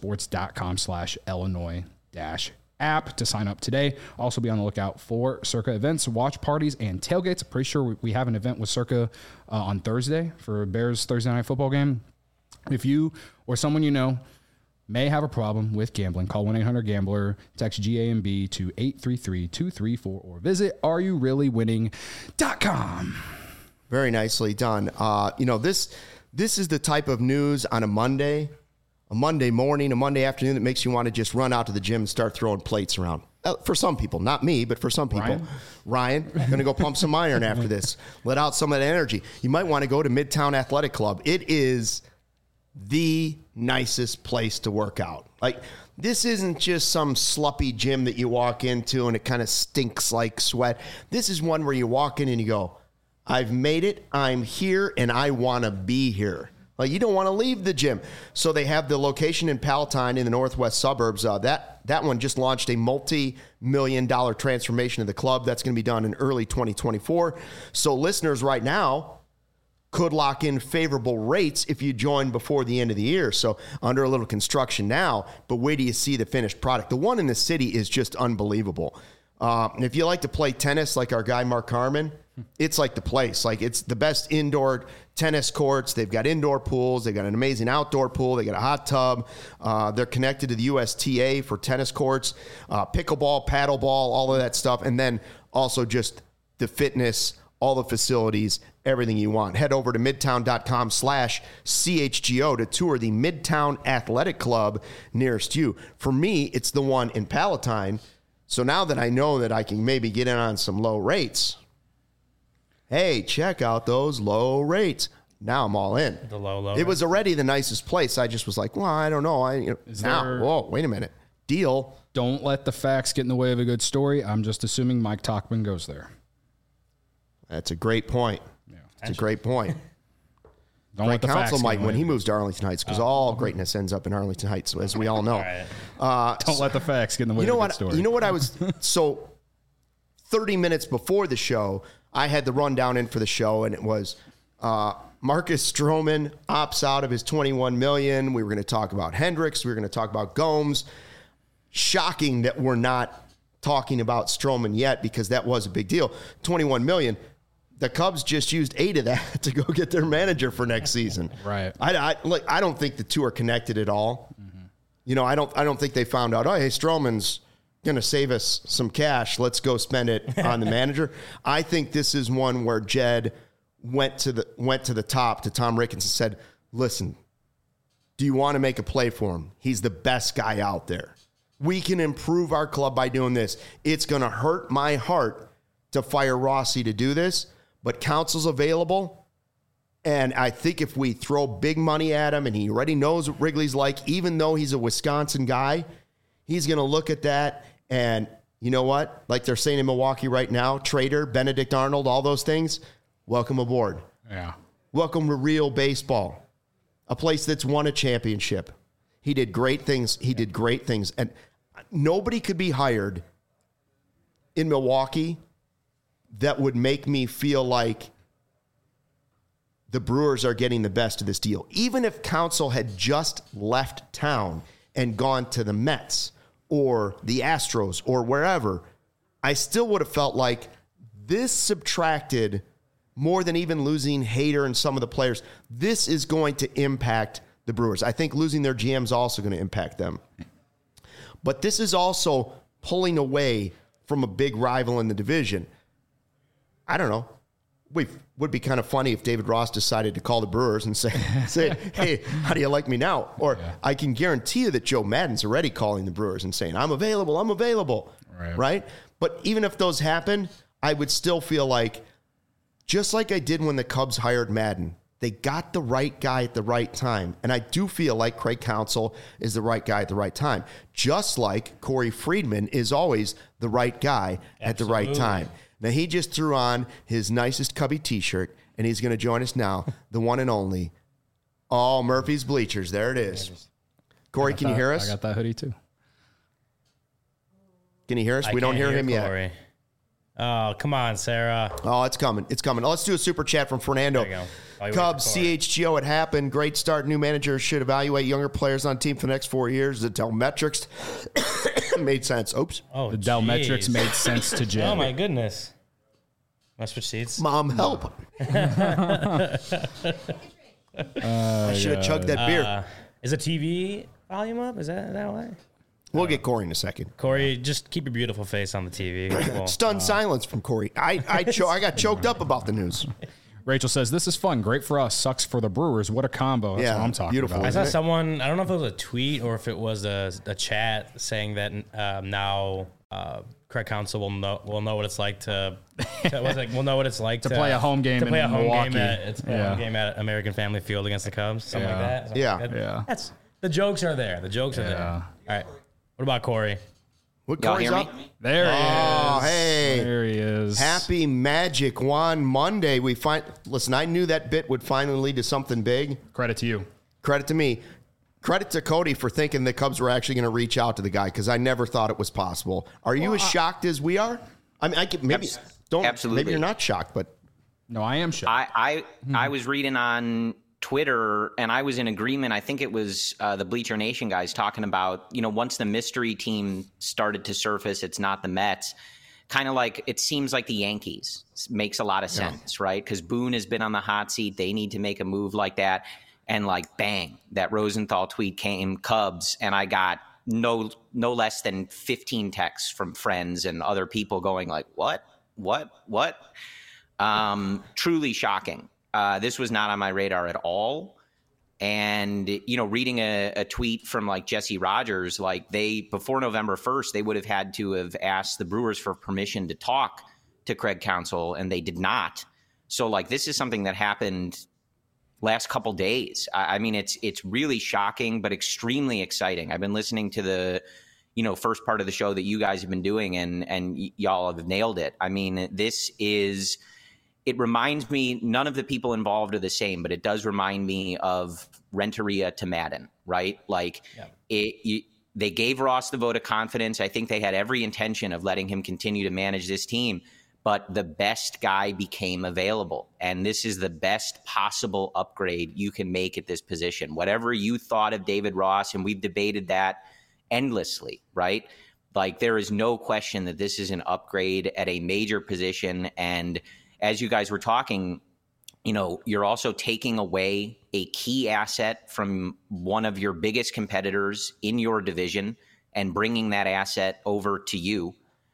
B: circasports.com/Illinois-app to sign up today. Also be on the lookout for Circa events, watch parties, and tailgates. Pretty sure we have an event with Circa on Thursday for Bears Thursday night football game. If you or someone you know may have a problem with gambling, call 1-800-GAMBLER, text GAMB to 833-234, or visit areyourreallywinning.com.
A: Very nicely done. This is the type of news on a Monday morning, a Monday afternoon that makes you want to just run out to the gym and start throwing plates around. For some people, not me, but for some people. Ryan, going to go pump some iron after this. Let out some of that energy. You might want to go to Midtown Athletic Club. It is the nicest place to work out. Like, this isn't just some sloppy gym that you walk into and it kind of stinks like sweat. This is one where you walk in and you go, I've made it, I'm here, and I want to be here. Like, you don't want to leave the gym. So they have the location in Palatine in the northwest suburbs. That one just launched a multi-million-dollar transformation of the club. That's going to be done in early 2024. So listeners right now could lock in favorable rates if you join before the end of the year. So under a little construction now, but wait till you see the finished product. The one in the city is just unbelievable. And if you like to play tennis like our guy Mark Harmon, it's like the place. Like, it's the best indoor tennis courts. They've got indoor pools. They've got an amazing outdoor pool. They got a hot tub. They're connected to the USTA for tennis courts, pickleball, paddleball, all of that stuff. And then also just the fitness, all the facilities, everything you want. Head over to midtown.com/CHGO to tour the Midtown Athletic Club nearest you. For me, it's the one in Palatine. So now that I know that I can maybe get in on some low rates, hey, check out those low rates. Now I'm all in.
C: The low.
A: It was already the nicest place. I just was like, well, I don't know. Whoa, wait a minute. Deal.
B: Don't let the facts get in the way of a good story. I'm just assuming Mike Tauchman goes there.
A: That's a great point. Yeah. It's a great point.
B: Don't let the facts
A: Counsell might when he moves to Arlington Heights, because all greatness ends up in Arlington Heights, as we all know.
B: Don't let the facts get in the way of a good story.
A: You know what I was... So 30 minutes before the show, I had the rundown in for the show, and it was Marcus Stroman opts out of his $21 million. We were going to talk about Hendricks. We were going to talk about Gomes. Shocking that we're not talking about Stroman yet, because that was a big deal. $21 million. The Cubs just used 8 of that to go get their manager for next season.
B: Right.
A: I don't think the two are connected at all. Mm-hmm. I don't think they found out, oh, hey, Stroman's going to save us some cash. Let's go spend it on the manager. I think this is one where Jed went to the top to Tom Ricketts and said, listen, do you want to make a play for him? He's the best guy out there. We can improve our club by doing this. It's going to hurt my heart to fire Rossi to do this, but Counsell's available, And I think if we throw big money at him and he already knows what Wrigley's like, even though he's a Wisconsin guy, he's going to look at that and you know what? Like they're saying in Milwaukee right now, Trader, Benedict Arnold, all those things, welcome aboard.
B: Yeah.
A: Welcome to real baseball, a place that's won a championship. He did great things. And nobody could be hired in Milwaukee that would make me feel like the Brewers are getting the best of this deal. Even if Counsell had just left town and gone to the Mets or the Astros or wherever, I still would have felt like this subtracted more than even losing Hader and some of the players. This is going to impact the Brewers. I think losing their GM is also going to impact them. But this is also pulling away from a big rival in the division. I don't know. Would be kind of funny if David Ross decided to call the Brewers and say, hey, how do you like me now? Or I can guarantee you that Joe Maddon's already calling the Brewers and saying, I'm available. Right? But even if those happen, I would still feel like, just like I did when the Cubs hired Maddon, they got the right guy at the right time. And I do feel like Craig Counsell is the right guy at the right time. Just like Corey Friedman is always the right guy at the right time. Now, he just threw on his nicest Cubby t-shirt, and he's going to join us now, the one and only, Murphy's Bleachers. There it is. Corey, can you hear us?
B: I got that hoodie, too.
A: Can you hear us? We don't hear him
C: Corey
A: yet.
C: Oh, come on, Sarah.
A: Oh, it's coming. It's coming. Let's do a super chat from Fernando.
C: There you go.
A: Cubs, CHGO, it happened. Great start. New managers should evaluate younger players on team for the next 4 years. The Dell metrics made sense. Oops.
C: Oh,
B: The Dell metrics made sense to Jay.
C: Oh, my goodness. Must switch seats.
A: Mom, help. I should have chugged that beer.
C: Is the TV volume up? Is that why?
A: We'll get Corey in a second.
C: Corey, just keep your beautiful face on the TV. Cool.
A: Stunned silence from Corey. I got choked up about the news.
B: Rachel says, this is fun. Great for us. Sucks for the Brewers. What a combo. That's what I'm talking
A: beautiful.
B: about.
C: I saw someone, I don't know if it was a tweet or if it was a chat saying that now Craig Counsell will know what it's like to
B: play a home game
C: to play
B: in
C: a home
B: Milwaukee.
C: home game at American Family Field against the Cubs, something like that. Something like that.
B: Yeah.
C: That's the jokes are there. The jokes are there. All right. What about Corey?
A: What,
E: Y'all
A: Corey's
E: hear
A: up?
E: me?
B: There he is.
A: Oh, hey.
B: There he is.
A: Happy Magic Wand Monday. Listen, I knew that bit would finally lead to something big.
B: Credit to you.
A: Credit to me. Credit to Cody for thinking the Cubs were actually going to reach out to the guy because I never thought it was possible. Are you as shocked as we are? I mean,
E: Absolutely.
A: Maybe you're not shocked, but
B: No, I am shocked.
E: I was reading on Twitter, and I was in agreement. I think it was the Bleacher Nation guys talking about, once the mystery team started to surface, it's not the Mets. Kind of like, it seems like the Yankees. Makes a lot of sense, right? Because Boone has been on the hot seat. They need to make a move like that. And like, bang, that Rosenthal tweet came, Cubs, and I got no less than 15 texts from friends and other people going like, what? Truly shocking. This was not on my radar at all. And, reading a tweet from like Jesse Rogers, like before November 1st, they would have had to have asked the Brewers for permission to talk to Craig Counsell, and they did not. So like, this is something that happened last couple days. I mean, it's really shocking, but extremely exciting. I've been listening to the, first part of the show that you guys have been doing, and y'all have nailed it. I mean, it reminds me, none of the people involved are the same, but it does remind me of Renteria to Maddon, right? Like they gave Ross the vote of confidence. I think they had every intention of letting him continue to manage this team, but the best guy became available. And this is the best possible upgrade you can make at this position. Whatever you thought of David Ross, and we've debated that endlessly, right? Like, there is no question that this is an upgrade at a major position. And as you guys were talking, you're also taking away a key asset from one of your biggest competitors in your division and bringing that asset over to you.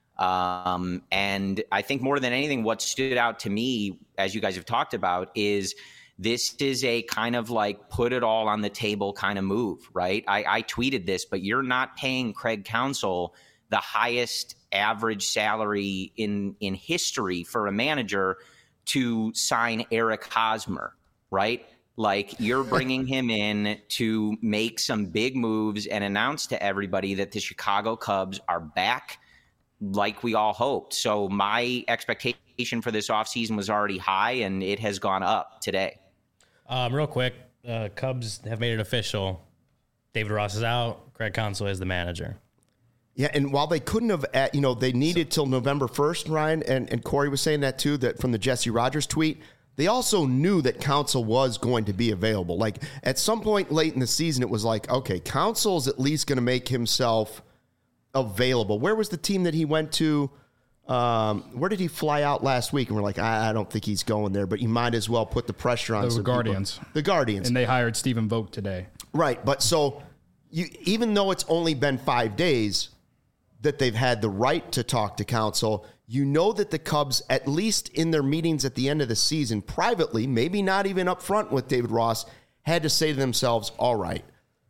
E: And I think more than anything, what stood out to me, as you guys have talked about, is this is a kind of like put it all on the table kind of move, right? I tweeted this, but you're not paying Craig Counsell the highest average salary in history for a manager to sign Eric Hosmer, right? Like, you're bringing him in to make some big moves and announce to everybody that the Chicago Cubs are back like we all hoped. So my expectation for this offseason was already high, and it has gone up today.
C: Real quick, Cubs have made it official. David Ross is out. Craig Counsell is the manager.
A: Yeah, and while they couldn't have, they needed till November 1st, Ryan, and Corey was saying that too, that from the Jesse Rogers tweet, they also knew that Counsell was going to be available. Like, at some point late in the season, it was like, okay, Counsell is at least going to make himself available. Where was the team that he went to? Where did he fly out last week? And we're like, I don't think he's going there, but you might as well put the pressure on
B: The Guardians.
A: The Guardians.
B: And they hired Stephen Vogt today.
A: Right, but so even though it's only been 5 days that they've had the right to talk to Counsell, you know that the Cubs, at least in their meetings at the end of the season, privately, maybe not even up front with David Ross, had to say to themselves, all right,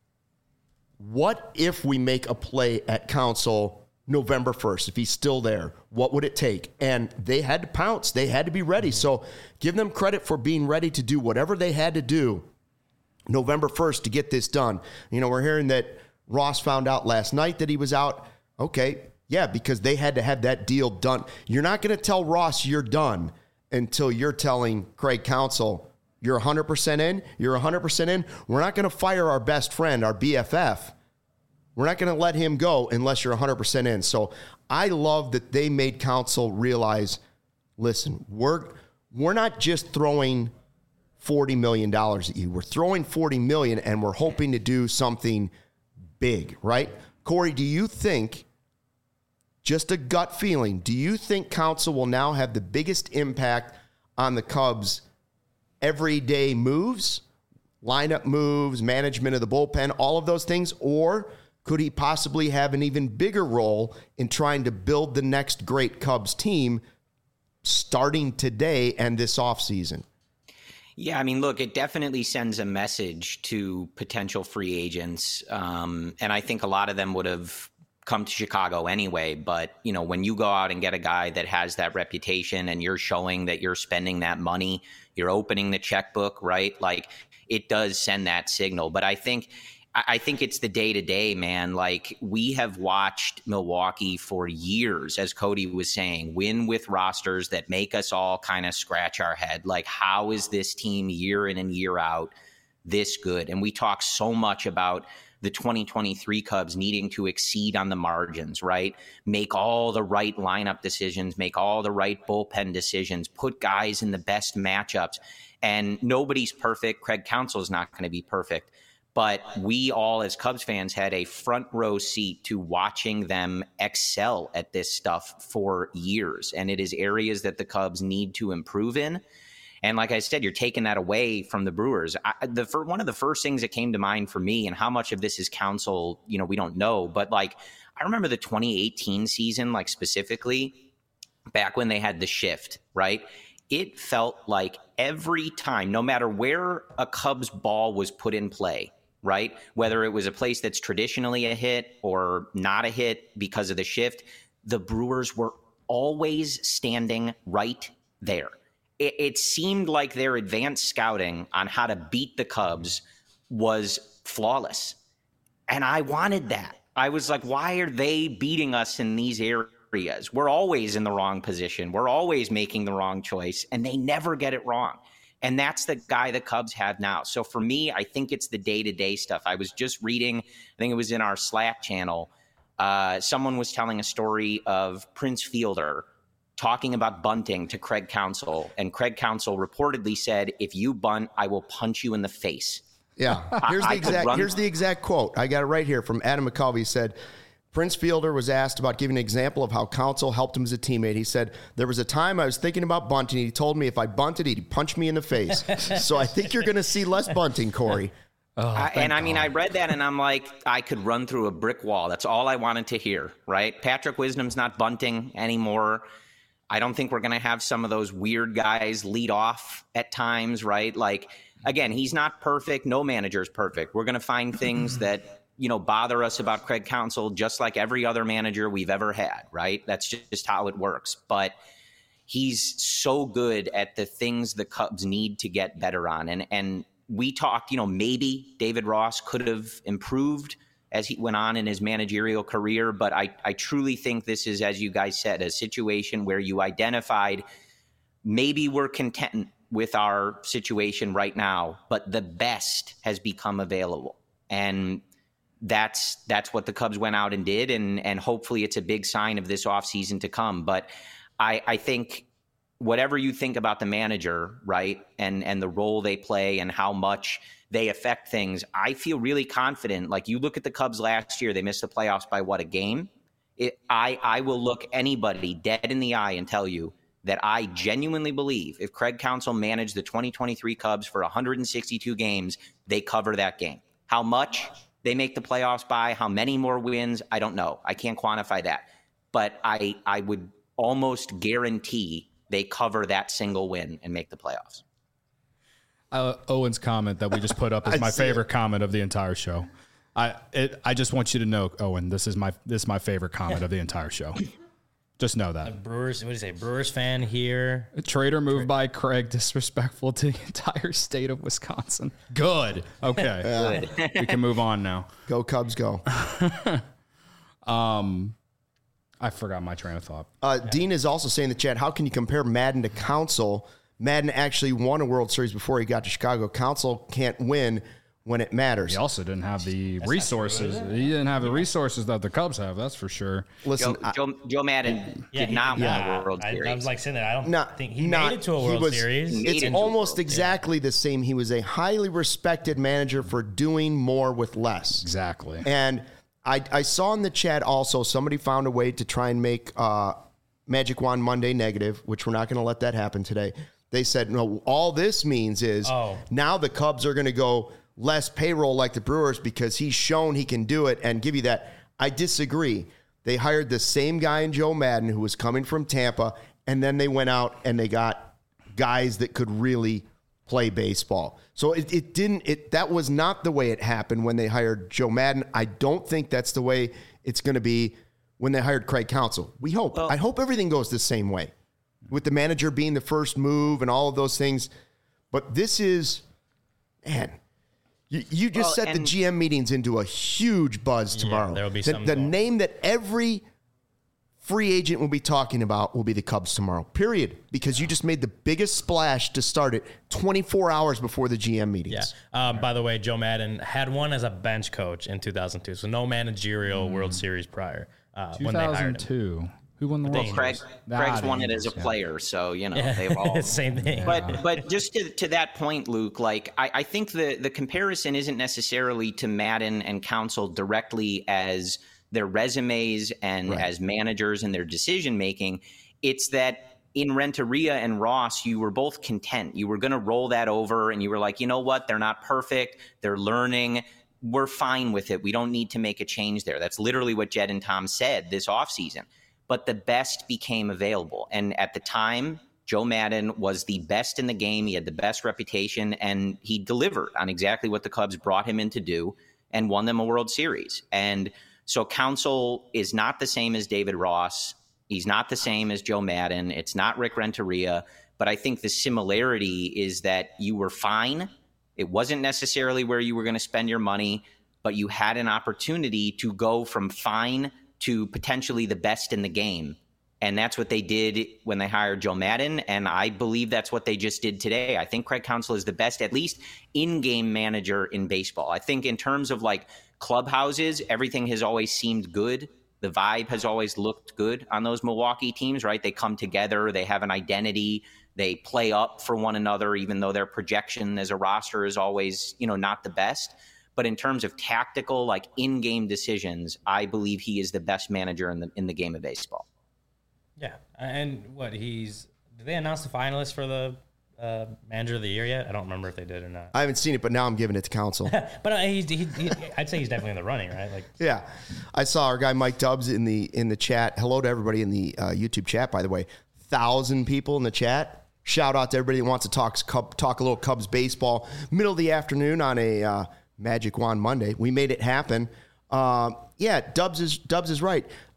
A: what if we make a play at Counsell November 1st? If he's still there, what would it take? And they had to pounce. They had to be ready. So give them credit for being ready to do whatever they had to do November 1st to get this done. You know, we're hearing that Ross found out last night that he was out. Okay, yeah, because they had to have that deal done. You're not going to tell Ross you're done until you're telling Craig Counsell you're 100% in. You're 100% in. We're not going to fire our best friend, our BFF. We're not going to let him go unless you're 100% in. So I love that they made Counsell realize, listen, we're not just throwing $40 million at you. We're throwing $40 million, and we're hoping to do something big, right? Corey, do you think, just a gut feeling, do you think Counsell will now have the biggest impact on the Cubs' everyday moves, lineup moves, management of the bullpen, all of those things? Or could he possibly have an even bigger role in trying to build the next great Cubs team starting today and this offseason?
E: Yeah, I mean, look, it definitely sends a message to potential free agents. And I think a lot of them would have come to Chicago anyway. But, you know, when you go out and get a guy that has that reputation and you're showing that you're spending that money, you're opening the checkbook, right? Like, it does send that signal. But I think it's the day-to-day, man. Like, we have watched Milwaukee for years, as Cody was saying, win with rosters that make us all kind of scratch our head. Like, how is this team year in and year out this good? And we talk so much about the 2023 Cubs needing to exceed on the margins, right? Make all the right lineup decisions, make all the right bullpen decisions, put guys in the best matchups. And nobody's perfect. Craig Counsell is not going to be perfect. But we all, as Cubs fans, had a front row seat to watching them excel at this stuff for years. And it is areas that the Cubs need to improve in. And like I said, you're taking that away from the Brewers. One of the first things that came to mind for me, and how much of this is Counsell, you know, we don't know. But like, I remember the 2018 season, like specifically back when they had the shift, right? It felt like every time, no matter where a Cubs ball was put in play, right? Whether it was a place that's traditionally a hit or not a hit because of the shift, the Brewers were always standing right there. It seemed like their advanced scouting on how to beat the Cubs was flawless. And I wanted that. I was like, why are they beating us in these areas? We're always in the wrong position. We're always making the wrong choice, and they never get it wrong. And that's the guy the Cubs have now. So for me, I think it's the day-to-day stuff. I was just reading, I think it was in our Slack channel, someone was telling a story of Prince Fielder talking about bunting to Craig Counsell. And Craig Counsell reportedly said, if you bunt, I will punch you in the face.
A: Yeah, here's the exact quote. I got it right here from Adam McCulvey. He said, Prince Fielder was asked about giving an example of how Counsell helped him as a teammate. He said, there was a time I was thinking about bunting. He told me if I bunted, he'd punch me in the face. So I think you're going to see less bunting, Corey.
E: I mean, I read that and I'm like, I could run through a brick wall. That's all I wanted to hear, right? Patrick Wisdom's not bunting anymore. I don't think we're going to have some of those weird guys lead off at times, right? Like, again, he's not perfect. No manager's perfect. We're going to find things that, you know, bother us about Craig Counsell, just like every other manager we've ever had, right? That's just how it works. But he's so good at the things the Cubs need to get better on. And we talked, maybe David Ross could have improved as he went on in his managerial career. But I truly think this is, as you guys said, a situation where you identified maybe we're content with our situation right now, but the best has become available. And that's what the Cubs went out and did. And hopefully it's a big sign of this offseason to come. But I think whatever you think about the manager, right, and the role they play and how much they affect things, I feel really confident. Like, you look at the Cubs last year, they missed the playoffs by a game? I will look anybody dead in the eye and tell you that I genuinely believe if Craig Counsell managed the 2023 Cubs for 162 games, they cover that game. How much they make the playoffs by, how many more wins, I don't know. I can't quantify that. But I would almost guarantee they cover that single win and make the playoffs.
B: Owen's comment that we just put up is my favorite comment of the entire show. I just want you to know, Owen, this is my favorite comment of the entire show. Just know that.
C: Brewers, what do you say? Brewers fan here.
B: A trader move by Craig, disrespectful to the entire state of Wisconsin. Good. Okay.
E: Good.
B: We can move on now.
A: Go Cubs, go.
B: I forgot my train of thought.
A: Dean is also saying in the chat, how can you compare Madden to Counsell? Madden actually won a World Series before he got to Chicago. Counsell can't win when it matters.
B: He also didn't have the resources. He didn't have the resources that the Cubs have, that's for sure.
A: Listen,
E: Joe Madden did not win a World Series.
C: I was like saying that. I don't think he made it to a World Series.
A: It's almost exactly the same. He was a highly respected manager for doing more with less.
B: Exactly.
A: And I saw in the chat also somebody found a way to try and make Magic Wand Monday negative, which we're not going to let that happen today. They said, no, all this means is now the Cubs are going to go less payroll like the Brewers because he's shown he can do it and give you that. I disagree. They hired the same guy in Joe Madden who was coming from Tampa, and then they went out and they got guys that could really play baseball. So that was not the way it happened when they hired Joe Madden. I don't think that's the way it's going to be when they hired Craig Counsell. We hope. I hope everything goes the same way, with the manager being the first move and all of those things. But this is, man, you just set the GM meetings into a huge buzz tomorrow.
C: Yeah, there will be
A: the name that every free agent will be talking about will be the Cubs tomorrow, period. Because you just made the biggest splash to start it 24 hours before the GM meetings.
C: Yeah. By the way, Joe Madden had one as a bench coach in 2002, so no managerial World Series prior. When they hired him.
B: 2002. Who won the World Series?
E: Craig's won it as a player, so they've all
C: same thing.
E: But just to that point, Luke, like I think the comparison isn't necessarily to Madden and Counsell directly as their resumes and as managers and their decision making. It's that in Renteria and Ross, you were both content. You were going to roll that over, and you were like, you know what? They're not perfect. They're learning. We're fine with it. We don't need to make a change there. That's literally what Jed and Tom said this offseason. But the best became available. And at the time, Joe Madden was the best in the game. He had the best reputation, and he delivered on exactly what the Cubs brought him in to do and won them a World Series. And so Counsell is not the same as David Ross. He's not the same as Joe Madden. It's not Rick Renteria. But I think the similarity is that you were fine. It wasn't necessarily where you were going to spend your money, but you had an opportunity to go from fine to potentially the best in the game. And that's what they did when they hired Joe Madden. And I believe that's what they just did today. I think Craig Counsell is the best, at least in-game manager in baseball. I think in terms of like clubhouses, everything has always seemed good. The vibe has always looked good on those Milwaukee teams, right? They come together. They have an identity. They play up for one another, even though their projection as a roster is always, not the best. But in terms of tactical, like in-game decisions, I believe he is the best manager in the game of baseball.
C: Yeah, and did they announce the finalists for the manager of the year yet? I don't remember if they did or not.
A: I haven't seen it, but now I'm giving it to Counsell.
C: But I'd say he's definitely in the running, right?
A: Yeah, I saw our guy Mike Dubs in the chat. Hello to everybody in the YouTube chat, by the way. 1,000 people in the chat. Shout out to everybody that wants to talk a little Cubs baseball. Middle of the afternoon on a Magic Wand Monday. We made it happen. Dubs is right.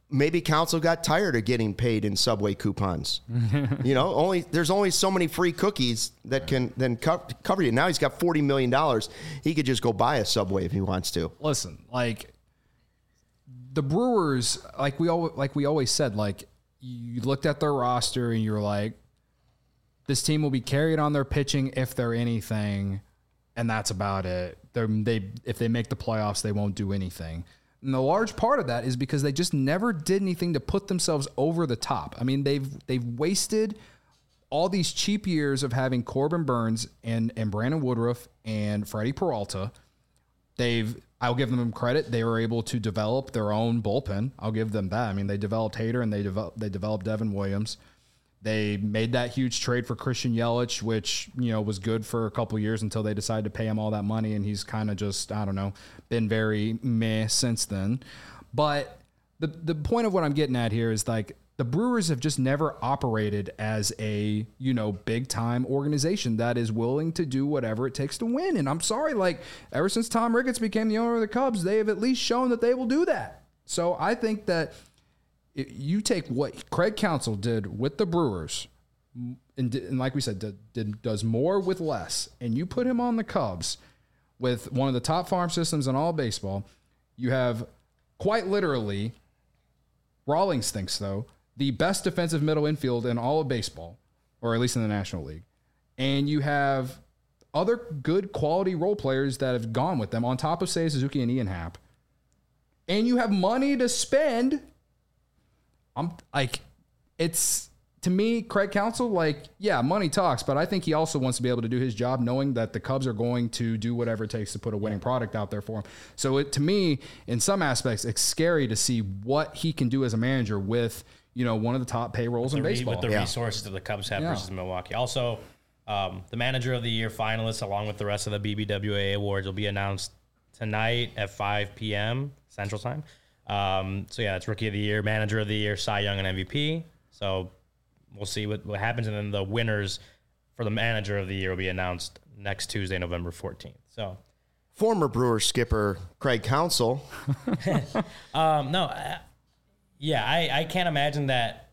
A: maybe Council got tired of getting paid in Subway coupons. There's only so many free cookies that can then cover you. Now he's got $40 million. He could just go buy a Subway if he wants to.
B: Listen, like the Brewers, like we always said, like you looked at their roster and you're like, this team will be carried on their pitching if they're anything, and that's about it. If they make the playoffs, they won't do anything. And the large part of that is because they just never did anything to put themselves over the top. I mean, they've wasted all these cheap years of having Corbin Burns and Brandon Woodruff and Freddie Peralta. I'll give them credit. They were able to develop their own bullpen. I'll give them that. I mean, they developed Hader and they developed Devin Williams. They made that huge trade for Christian Yelich, which, was good for a couple years until they decided to pay him all that money. And he's kind of just, I don't know, been very meh since then. But the point of what I'm getting at here is like the Brewers have just never operated as a, big time organization that is willing to do whatever it takes to win. And I'm sorry, like ever since Tom Ricketts became the owner of the Cubs, they have at least shown that they will do that. So I think that you take what Craig Counsell did with the Brewers, and like we said, does more with less, and you put him on the Cubs with one of the top farm systems in all of baseball. You have quite literally, Rawlings thinks though, the best defensive middle infield in all of baseball, or at least in the National League. And you have other good quality role players that have gone with them on top of Seiya Suzuki and Ian Happ. And you have money to spend. To me, Craig Counsell, money talks, but I think he also wants to be able to do his job knowing that the Cubs are going to do whatever it takes to put a winning product out there for him. So to me, in some aspects, it's scary to see what he can do as a manager with, one of the top payrolls in baseball.
C: With the resources that the Cubs have versus Milwaukee. Also, the Manager of the Year finalists, along with the rest of the BBWA awards, will be announced tonight at 5 p.m. Central Time. It's Rookie of the Year, Manager of the Year, Cy Young, and MVP. So we'll see what happens. And then the winners for the Manager of the Year will be announced next Tuesday, November 14th. So
A: former Brewers skipper Craig Counsell.
C: I can't imagine that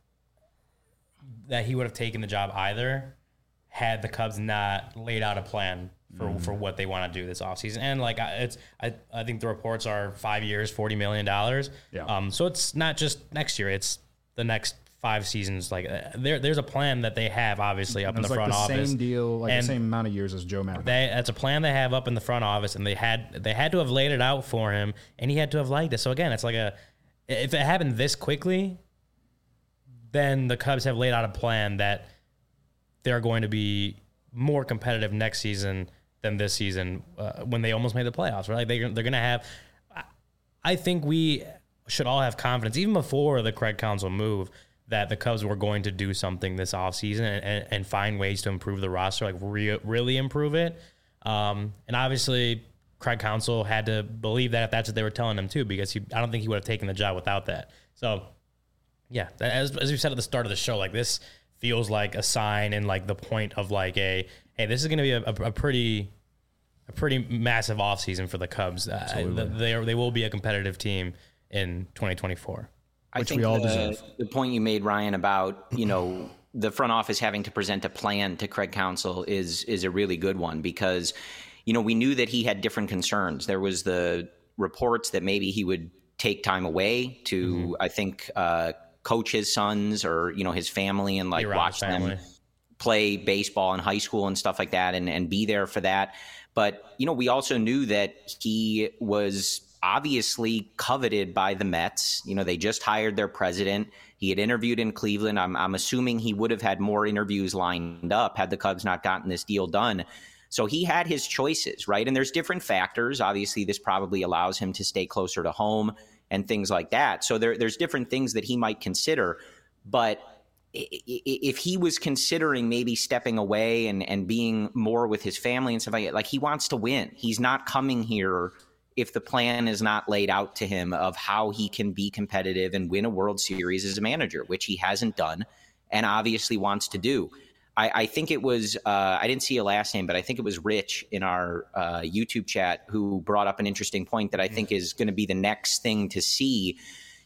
C: he would have taken the job either had the Cubs not laid out a plan for what they want to do this offseason. And I think the reports are 5 years, $40 million.
B: Yeah.
C: So it's not just next year, it's the next 5 seasons. There's a plan that they have obviously up in the front office.
B: Same deal, the same amount of years as Joe Madden.
C: That's a plan they have up in the front office, and they had to have laid it out for him, and he had to have liked it. So again, it's if it happened this quickly, then the Cubs have laid out a plan that they're going to be more competitive next season than this season when they almost made the playoffs, right? They're going to have – I think we should all have confidence, even before the Craig Counsell move, that the Cubs were going to do something this offseason and find ways to improve the roster, really improve it. And obviously Craig Counsell had to believe that if that's what they were telling him too, because I don't think he would have taken the job without that. So, yeah, as we said at the start of the show, this feels like a sign and the point of hey, this is going to be a pretty massive offseason for the Cubs. They will be a competitive team in 2024.
E: I think the point you made, Ryan, about the front office having to present a plan to Craig Counsell is a really good one, because we knew that he had different concerns. There was the reports that maybe he would take time away to I think coach his sons or his family and watch them play baseball in high school and stuff like that, and be there for that. But we also knew that he was obviously coveted by the Mets. They just hired their president. He had interviewed in Cleveland. I'm assuming he would have had more interviews lined up had the Cubs not gotten this deal done. So he had his choices, right? And there's different factors. Obviously, this probably allows him to stay closer to home and things like that. So there's different things that he might consider. But if he was considering maybe stepping away and being more with his family and stuff like that, he wants to win. He's not coming here if the plan is not laid out to him of how he can be competitive and win a World Series as a manager, which he hasn't done and obviously wants to do. I think it was, I didn't see a last name, but I think it was Rich in our YouTube chat who brought up an interesting point that I think is going to be the next thing to see.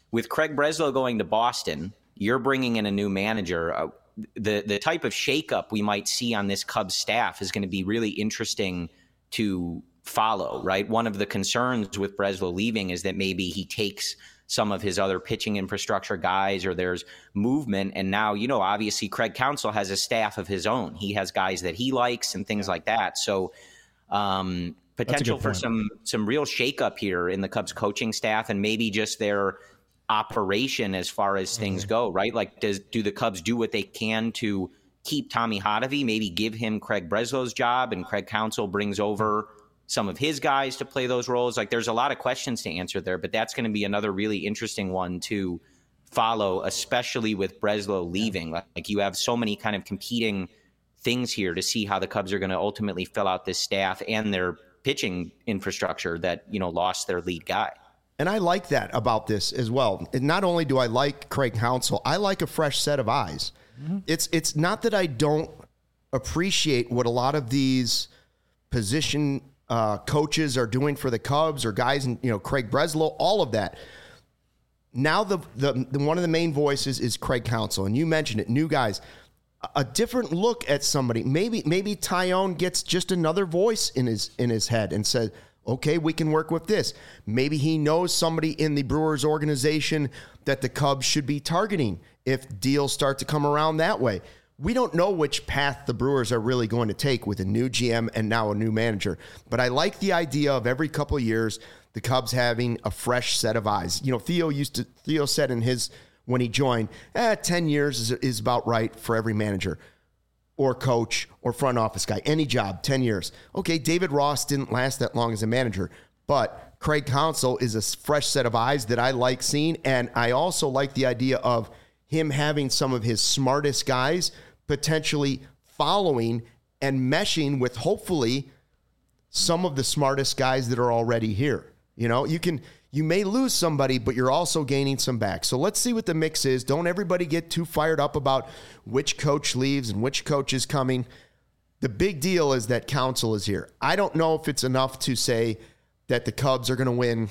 E: with Craig Breslow going to Boston, you're bringing in a new manager. The type of shakeup we might see on this Cubs staff is going to be really interesting to follow, right? One of the concerns with Breslow leaving is that maybe he takes some of his other pitching infrastructure guys, or there's movement. And now, obviously Craig Counsell has a staff of his own. He has guys that he likes and things like that. So potential for some real shakeup here in the Cubs coaching staff, and maybe just their operation as far as things go, right? Like, do the Cubs do what they can to keep Tommy Hotovy, maybe give him Craig Breslow's job, and Craig Counsell brings over some of his guys to play those roles? Like, there's a lot of questions to answer there, but that's going to be another really interesting one to follow, especially with Breslow leaving. Like, you have so many kind of competing things here to see how the Cubs are going to ultimately fill out this staff and their pitching infrastructure that, lost their lead guy.
A: And I like that about this as well. And not only do I like Craig Counsell, I like a fresh set of eyes. Mm-hmm. It's not that I don't appreciate what a lot of these position coaches are doing for the Cubs, or guys, and Craig Breslow, all of that. Now the one of the main voices is Craig Counsell, and you mentioned it, new guys, a different look at somebody. Maybe Taillon gets just another voice in his head and says, okay, we can work with this. Maybe he knows somebody in the Brewers organization that the Cubs should be targeting if deals start to come around that way. We don't know which path the Brewers are really going to take with a new GM and now a new manager. But I like the idea of every couple of years, the Cubs having a fresh set of eyes. Theo said when he joined, 10 years is about right for every manager or coach or front office guy. Any job, 10 years. Okay, David Ross didn't last that long as a manager, but Craig Counsell is a fresh set of eyes that I like seeing. And I also like the idea of him having some of his smartest guys potentially following and meshing with, hopefully, some of the smartest guys that are already here. You may lose somebody, but you're also gaining some back. So let's see what the mix is. Don't everybody get too fired up about which coach leaves and which coach is coming. The big deal is that Counsell is here. I don't know if it's enough to say that the Cubs are going to win.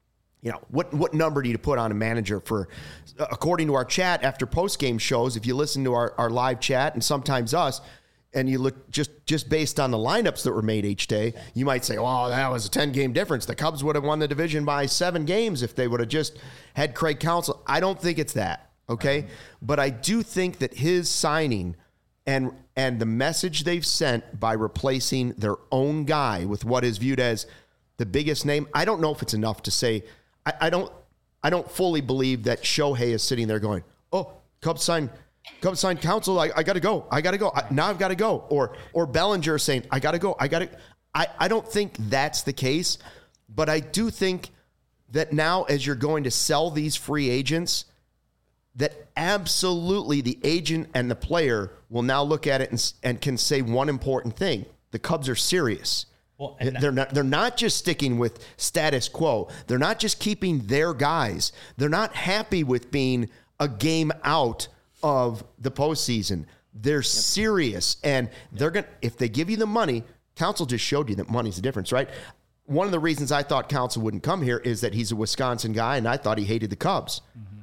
A: What number do you put on a manager for? According to our chat after post-game shows, if you listen to our live chat and sometimes us, and you look just based on the lineups that were made each day, you might say, oh, that was a 10-game difference. The Cubs would have won the division by 7 games if they would have just had Craig Counsell. I don't think it's that, okay? But I do think that his signing and the message they've sent by replacing their own guy with what is viewed as the biggest name, I don't know if it's enough to say. I don't fully believe that Shohei is sitting there going, oh, Cubs signed Counsell. I got to go. Now I've got to go. Or Bellinger saying, I got to go. I don't think that's the case, but I do think that now, as you're going to sell these free agents, that absolutely the agent and the player will now look at it and can say one important thing. The Cubs are serious. Well, they're not just sticking with status quo. They're not just keeping their guys. They're not happy with being a game out of the postseason. They're serious, and they're going. If they give you the money, Counsell just showed you that money's the difference, right? One of the reasons I thought Counsell wouldn't come here is that he's a Wisconsin guy, and I thought he hated the Cubs. Mm-hmm.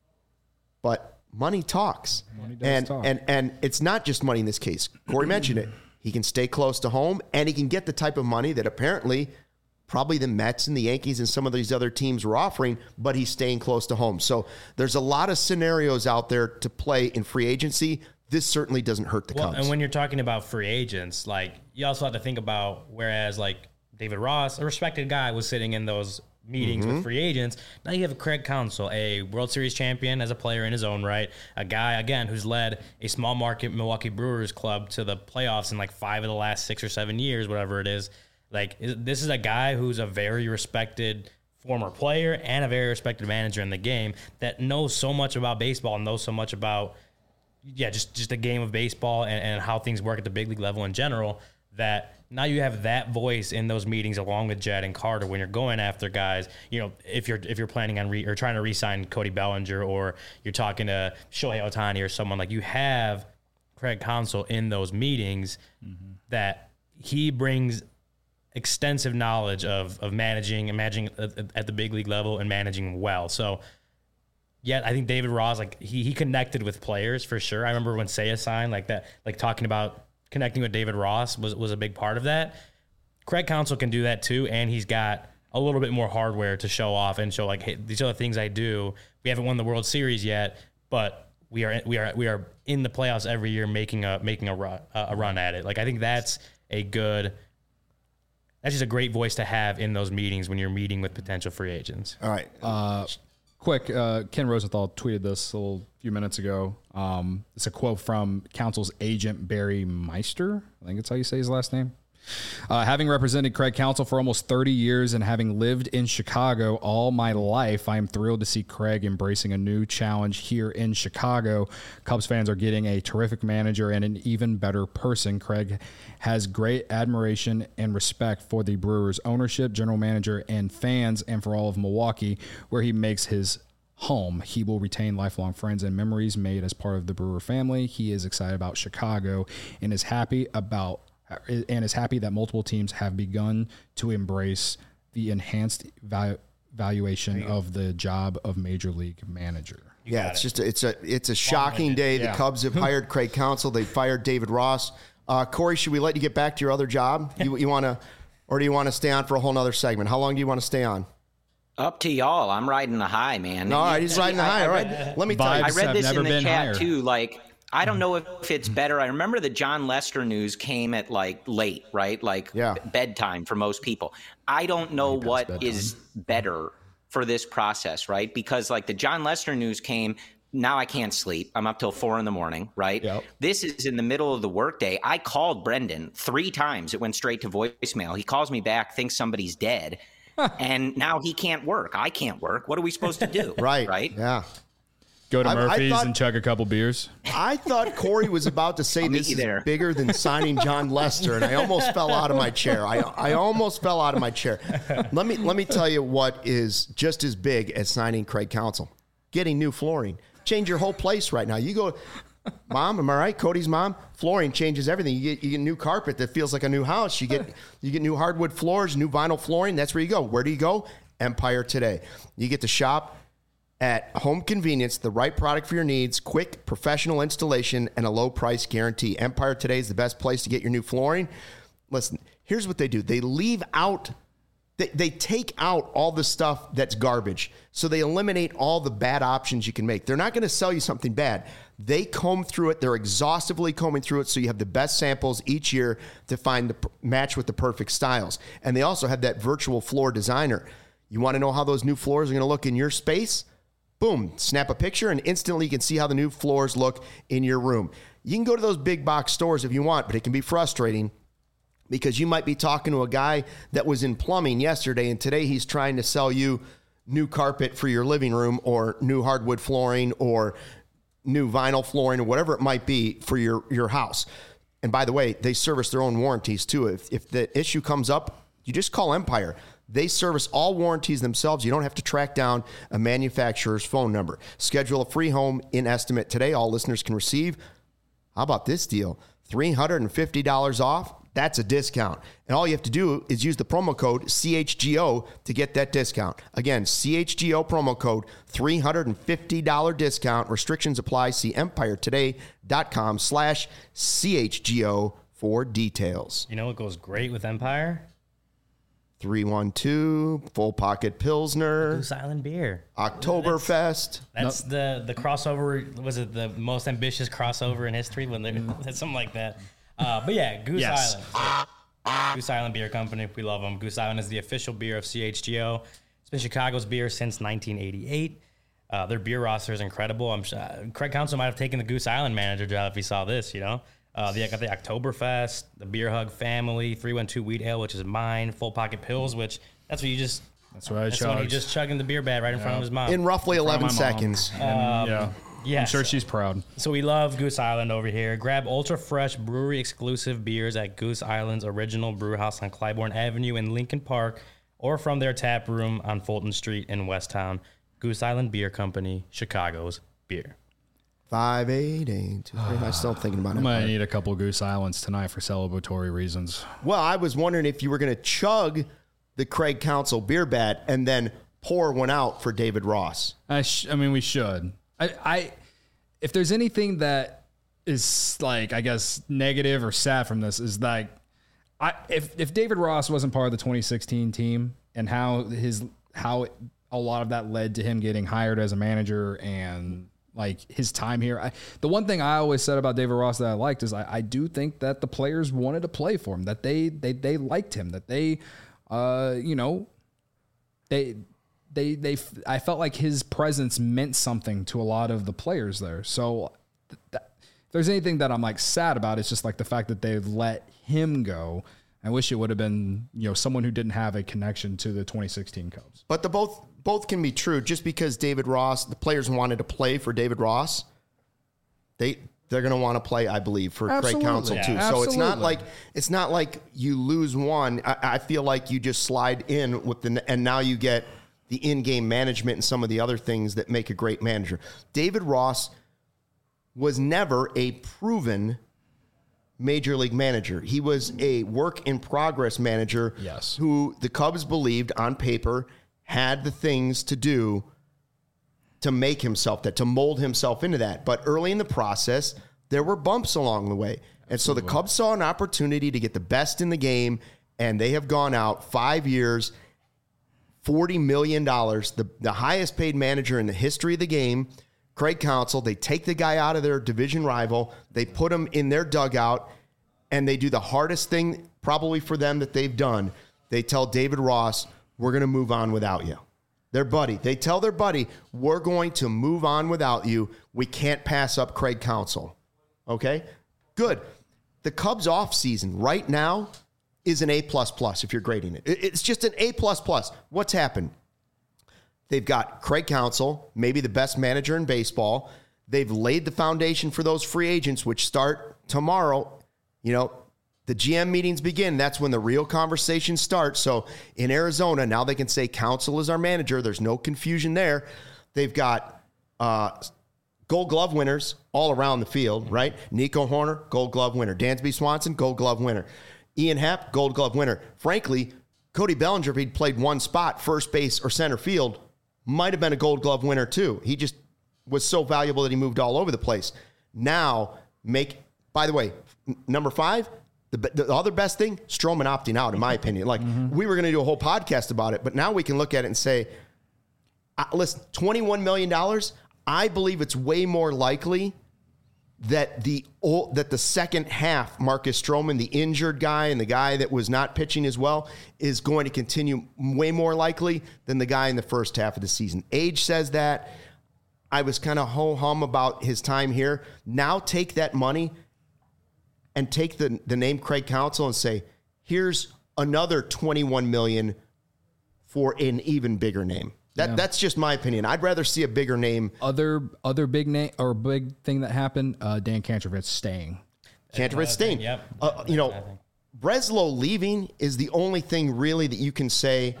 A: But money talks, and it's not just money in this case. Corey mentioned it. He can stay close to home, and he can get the type of money that apparently probably the Mets and the Yankees and some of these other teams were offering, but he's staying close to home. So there's a lot of scenarios out there to play in free agency. This certainly doesn't hurt the Cubs.
C: And when you're talking about free agents, like, you also have to think about, whereas like David Ross, a respected guy, was sitting in those meetings with free agents. Now you have Craig Counsell, a World Series champion as a player in his own right, a guy, again, who's led a small market Milwaukee Brewers club to the playoffs in like 5 of the last 6 or 7 years, whatever it is. Like, this is a guy who's a very respected former player and a very respected manager in the game that knows so much about baseball and knows so much about, just the game of baseball and how things work at the big league level in general, that now you have that voice in those meetings along with Jed and Carter when you're going after guys. If you're planning on or trying to re-sign Cody Bellinger, or you're talking to Shohei Ohtani or someone, like, you have Craig Counsell in those meetings that he brings extensive knowledge of managing at the big league level and managing well. So yet I think David Ross, like he connected with players for sure. I remember when Seiya signed, like that, like talking about connecting with David Ross was a big part of that. Craig Counsell can do that too, and he's got a little bit more hardware to show off and show like, hey, these are the things I do. We haven't won the World Series yet, but we are in the playoffs every year, making a run at it. Like I think that's just a great voice to have in those meetings when you're meeting with potential free agents.
A: All right.
B: Quick, Ken Rosenthal tweeted this a few minutes ago. It's a quote from Counsell's agent, Barry Meister. I think that's how you say his last name. Having represented Craig Counsell for almost 30 years and having lived in Chicago all my life, I am thrilled to see Craig embracing a new challenge here in Chicago. Cubs fans are getting a terrific manager and an even better person. Craig has great admiration and respect for the Brewers ownership, general manager, and fans, and for all of Milwaukee, where he makes his home. He will retain lifelong friends and memories made as part of the Brewer family. He is excited about Chicago and is happy that multiple teams have begun to embrace the enhanced valuation of the job of major league manager.
A: Yeah, it's a shocking day. The Cubs have hired Craig Counsell. They fired David Ross. Corey, should we let you get back to your other job? You want to, or do you want to stay on for a whole nother segment? How long do you want to stay on?
E: Up to y'all. I'm riding the high, man.
A: All right, he's riding the high. All right, let me tell you.
E: I read this in the chat
B: higher.
E: too. Like, I don't know if it's better. I remember the John Lester news came at like late, right? Like bedtime for most people. I don't know what is better for this process, right? Because like the John Lester news came, now I can't sleep. I'm up till 4 a.m, right? Yep. This is in the middle of the workday. I called Brendan 3 times. It went straight to voicemail. He calls me back, thinks somebody's dead. And now he can't work. I can't work. What are we supposed to do? Right?
A: Yeah.
B: Go to Murphy's and chug a couple beers.
A: I thought Corey was about to say this is bigger than signing John Lester, and I almost fell out of my chair. I almost fell out of my chair. Let me tell you what is just as big as signing Craig Counsell. Getting new flooring. Change your whole place right now. You go, Mom, am I right? Cody's mom, flooring changes everything. You get new carpet that feels like a new house. You get new hardwood floors, new vinyl flooring. That's where you go. Where do you go? Empire Today. You get to shop at home convenience, the right product for your needs, quick, professional installation, and a low price guarantee. Empire Today is the best place to get your new flooring. Listen, here's what they do. They leave out, they take out all the stuff that's garbage. So they eliminate all the bad options you can make. They're not going to sell you something bad. They comb through it. They're exhaustively combing through it so you have the best samples each year to find the match with the perfect styles. And they also have that virtual floor designer. You want to know how those new floors are going to look in your space? Boom, snap a picture and instantly you can see how the new floors look in your room. You can go to those big box stores if you want, but it can be frustrating because you might be talking to a guy that was in plumbing yesterday and today he's trying to sell you new carpet for your living room or new hardwood flooring or new vinyl flooring or whatever it might be for your house. And by the way, they service their own warranties too. If the issue comes up, you just call Empire. They service all warranties themselves. You don't have to track down a manufacturer's phone number. Schedule a free home in estimate today. All listeners can receive. How about this deal? $350 off. That's a discount. And all you have to do is use the promo code CHGO to get that discount. Again, CHGO promo code, $350 discount. Restrictions apply. See EmpireToday.com/CHGO for details.
C: You know what goes great with Empire?
A: 312, Full Pocket Pilsner.
C: Goose Island beer.
A: Oktoberfest.
C: That's the crossover. Was it the most ambitious crossover in history? That's something like that. But yeah, Goose Island. Goose Island Beer Company. We love them. Goose Island is the official beer of CHGO. It's been Chicago's beer since 1988. Their beer roster is incredible. I'm sure Craig Counsell might have taken the Goose Island manager job if he saw this, you know. They got the Oktoberfest, the Beer Hug family, 312 Wheat Ale, which is mine, Full Pocket Pills, which that's what he just chugging the beer bat right in front of his mom.
A: In roughly 11 seconds.
B: Yeah. I'm sure she's proud.
C: So we love Goose Island over here. Grab ultra fresh brewery exclusive beers at Goose Island's original brew house on Clybourne Avenue in Lincoln Park or from their tap room on Fulton Street in Westtown. Goose Island Beer Company, Chicago's beer.
A: 58823. I'm still thinking about it.
B: I might need a couple Goose Islands tonight for celebratory reasons.
A: Well, I was wondering if you were going to chug the Craig Counsell beer bat and then pour one out for David Ross.
B: I mean, we should. If there's anything that is like, I guess, negative or sad from this is like, if David Ross wasn't part of the 2016 team and how a lot of that led to him getting hired as a manager and like his time here. The one thing I always said about David Ross that I liked is I do think that the players wanted to play for him, that they liked him, that they, I felt like his presence meant something to a lot of the players there. So if there's anything that I'm like sad about, it's just like the fact that they've let him go. I wish it would have been, someone who didn't have a connection to the 2016 Cubs.
A: But the both can be true. Just because David Ross, the players wanted to play for David Ross, they're going to want to play, I believe, for Craig Counsell too.
B: Yeah,
A: so it's not like you lose one. I feel like you just slide in with and now you get the in-game management and some of the other things that make a great manager. David Ross was never a proven major league manager. He was a work in progress manager.
B: Yes.
A: Who the Cubs believed on paper had the things to do to make himself that, to mold himself into that. But early in the process, there were bumps along the way. And so the Cubs saw an opportunity to get the best in the game, and they have gone out 5 years, $40 million, the highest paid manager in the history of the game, Craig Counsell. They take the guy out of their division rival, they put him in their dugout, and they do the hardest thing probably for them that they've done. They tell David Ross, we're going to move on without you. Their buddy. They tell their buddy, we're going to move on without you. We can't pass up Craig Counsell. Okay? Good. The Cubs offseason right now is an A++ if you're grading it. It's just an A++. What's happened? They've got Craig Counsell, maybe the best manager in baseball. They've laid the foundation for those free agents, which start tomorrow. The GM meetings begin. That's when the real conversation starts. So in Arizona, now they can say Counsell is our manager. There's no confusion there. They've got Gold Glove winners all around the field, right? Nico Horner, Gold Glove winner. Dansby Swanson, Gold Glove winner. Ian Happ, Gold Glove winner. Frankly, Cody Bellinger, if he'd played one spot, first base or center field, might have been a Gold Glove winner too. He just was so valuable that he moved all over the place. Now, by the way, number 5, the other best thing, Stroman opting out, in my opinion. We were going to do a whole podcast about it, but now we can look at it and say, listen, $21 million, I believe it's way more likely that the second half, Marcus Stroman, the injured guy and the guy that was not pitching as well, is going to continue way more likely than the guy in the first half of the season. Age says that. I was kind of ho-hum about his time here. Now take that money and take the name Craig Counsell and say, here's another $21 million for an even bigger name. That's just my opinion. I'd rather see a bigger name.
B: Other big name or big thing that happened, Dan Kantrovitz staying.
A: Kantrovitz staying.
C: Yep.
A: Breslow leaving is the only thing really that you can say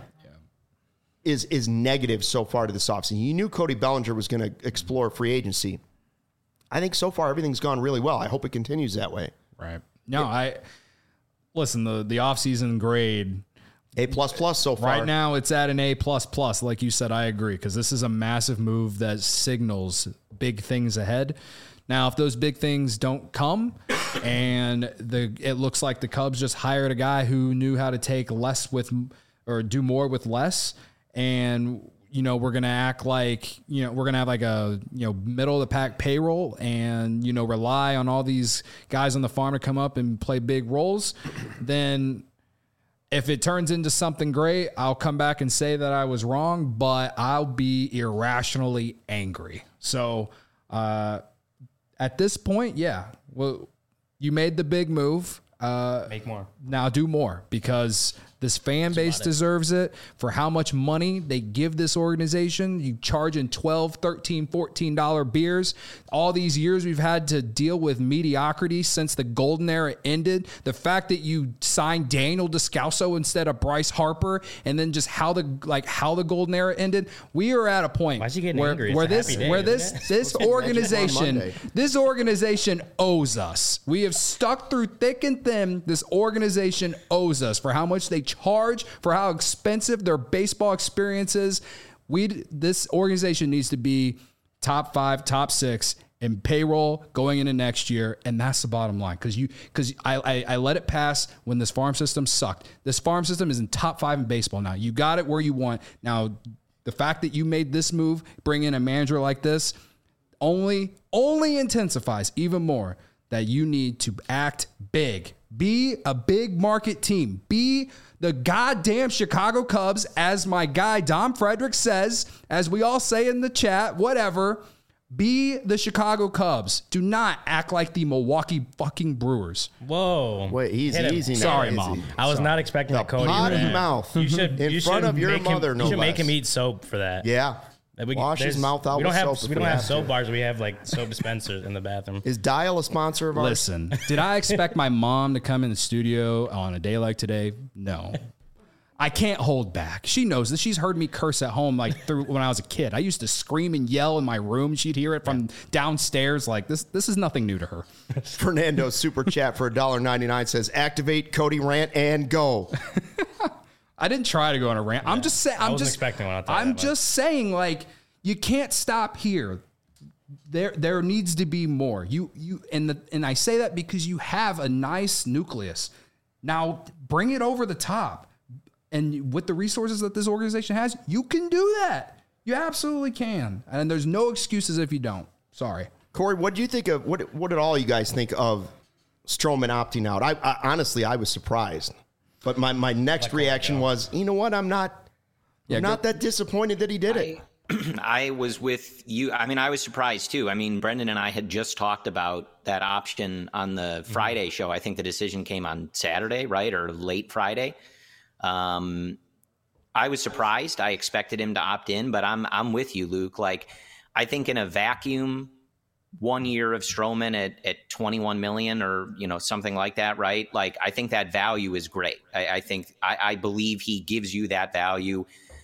A: is negative so far to this offseason. You knew Cody Bellinger was going to explore free agency. I think so far everything's gone really well. I hope it continues that way.
B: Right. No, listen, the offseason grade,
A: A++ so far.
B: right now it's at an A++. Like you said, I agree, because this is a massive move that signals big things ahead. Now, if those big things don't come and it looks like the Cubs just hired a guy who knew how to take less or do more with less, and we're going to act like, we're going to have like a, middle of the pack payroll and, rely on all these guys on the farm to come up and play big roles, then if it turns into something great, I'll come back and say that I was wrong, but I'll be irrationally angry. So at this point, well, you made the big move.
C: Make more.
B: Now do more, because this fan base deserves it for how much money they give this organization. You charging $12, $13, $14 beers. All these years we've had to deal with mediocrity since the golden era ended. The fact that you signed Daniel Descalso instead of Bryce Harper, and then just how the golden era ended. We are at a point where this organization owes us. We have stuck through thick and thin. This organization owes us for how much they charge, for how expensive their baseball experience is. This organization needs to be top 5, top 6 in payroll going into next year, and that's the bottom line. Because I let it pass when this farm system sucked. This farm system is in top 5 in baseball now. You got it where you want. Now, the fact that you made this move, bring in a manager like this, only intensifies even more that you need to act big. Be a big market team. Be the goddamn Chicago Cubs, as my guy Dom Frederick says, as we all say in the chat, whatever. Be the Chicago Cubs. Do not act like the Milwaukee fucking Brewers.
C: Whoa.
A: Wait, he's easy now.
B: Sorry,
A: Easy.
B: Mom.
C: I was not expecting that, Cody.
A: Pot of mouth.
C: You should
A: in front of your mother,
C: him,
A: no
C: You should make
A: less.
C: him eat soap for that.
A: Yeah. Wash his
C: there's-
A: mouth out
C: We don't
A: with
C: have
A: soap if
C: we
A: we
C: don't have
A: have
C: soap
A: to.
C: bars. We have like soap dispensers in the bathroom.
A: Is Dial a sponsor of ours?
B: Listen, did I expect my mom to come in the studio on a day like today? No. I can't hold back. She knows this. She's heard me curse at home like through when I was a kid. I used to scream and yell in my room. She'd hear it from downstairs. Like this is nothing new to her.
A: Fernando super chat for $1.99 says, activate Cody rant and go.
B: I didn't try to go on a rant. I'm just saying.
C: I wasn't expecting one, I'll tell you
B: I'm
C: that much.
B: just saying, like, you can't stop here. There needs to be more. And I say that because you have a nice nucleus. Now bring it over the top. And with the resources that this organization has, you can do that. You absolutely can. And there's no excuses if you don't. Sorry.
A: Corey, what do you think of, what did all you guys think of Stroman opting out? I honestly, I was surprised. But my next reaction was, you know what? I'm not that disappointed that he did it.
E: I was with you. I mean, I was surprised too. I mean, Brendan and I had just talked about that option on the Friday show. I think the decision came on Saturday, right? Or late Friday. I was surprised. I expected him to opt in, but I'm with you, Luke. Like, I think in a vacuum, 1 year of Stroman at 21 million or, something like that, right? Like, I think that value is great. I believe he gives you that value.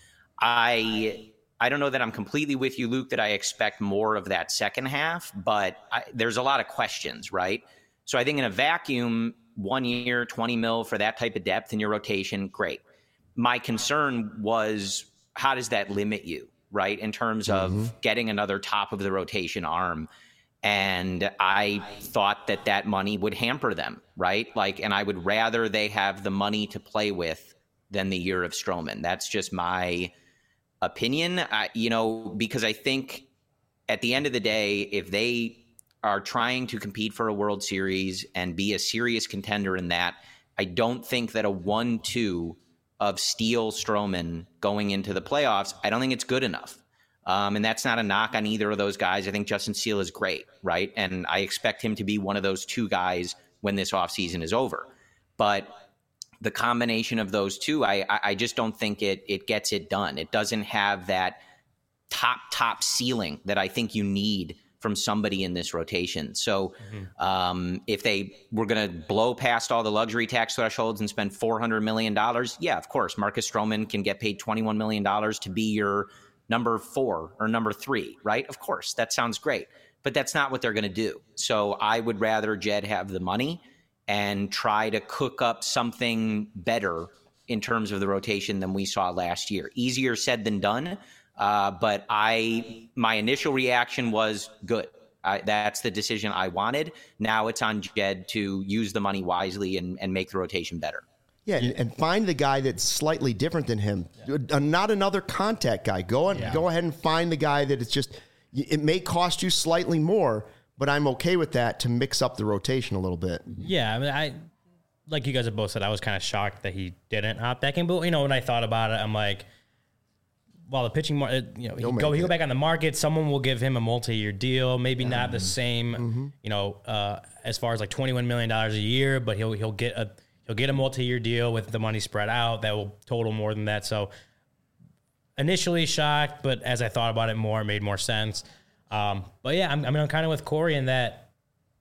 E: I don't know that I'm completely with you, Luke, that I expect more of that second half, but there's a lot of questions, right? So I think in a vacuum, 1 year, 20 mil for that type of depth in your rotation, great. My concern was, how does that limit you, right? In terms of getting another top of the rotation arm. And I thought that money would hamper them, right? Like, and I would rather they have the money to play with than the year of Stroman. That's just my opinion, because I think at the end of the day, if they are trying to compete for a World Series and be a serious contender in that, I don't think that a 1-2 of Steele Stroman going into the playoffs, I don't think it's good enough. And that's not a knock on either of those guys. I think Justin Steele is great, right? And I expect him to be one of those two guys when this offseason is over. But the combination of those two, I just don't think it gets it done. It doesn't have that top ceiling that I think you need from somebody in this rotation. So if they were going to blow past all the luxury tax thresholds and spend $400 million, yeah, of course, Marcus Stroman can get paid $21 million to be your number 4 or number 3, right? Of course, that sounds great. But that's not what they're going to do. So I would rather Jed have the money and try to cook up something better in terms of the rotation than we saw last year. Easier said than done. But my initial reaction was good. That's the decision I wanted. Now it's on Jed to use the money wisely and make the rotation better.
A: Yeah, and find the guy that's slightly different than him. Not another contact guy. Go ahead and find the guy that it's just, it may cost you slightly more, but I'm okay with that to mix up the rotation a little bit.
C: Yeah, I mean, like you guys have both said, I was kind of shocked that he didn't opt back in. But, when I thought about it, I'm like, well, the pitching market, he'll go back on the market. Someone will give him a multi-year deal, maybe not the same, as far as like $21 million a year, but he'll get a multi-year deal with the money spread out that will total more than that. So initially shocked, but as I thought about it more, it made more sense. But yeah, I'm kind of with Corey in that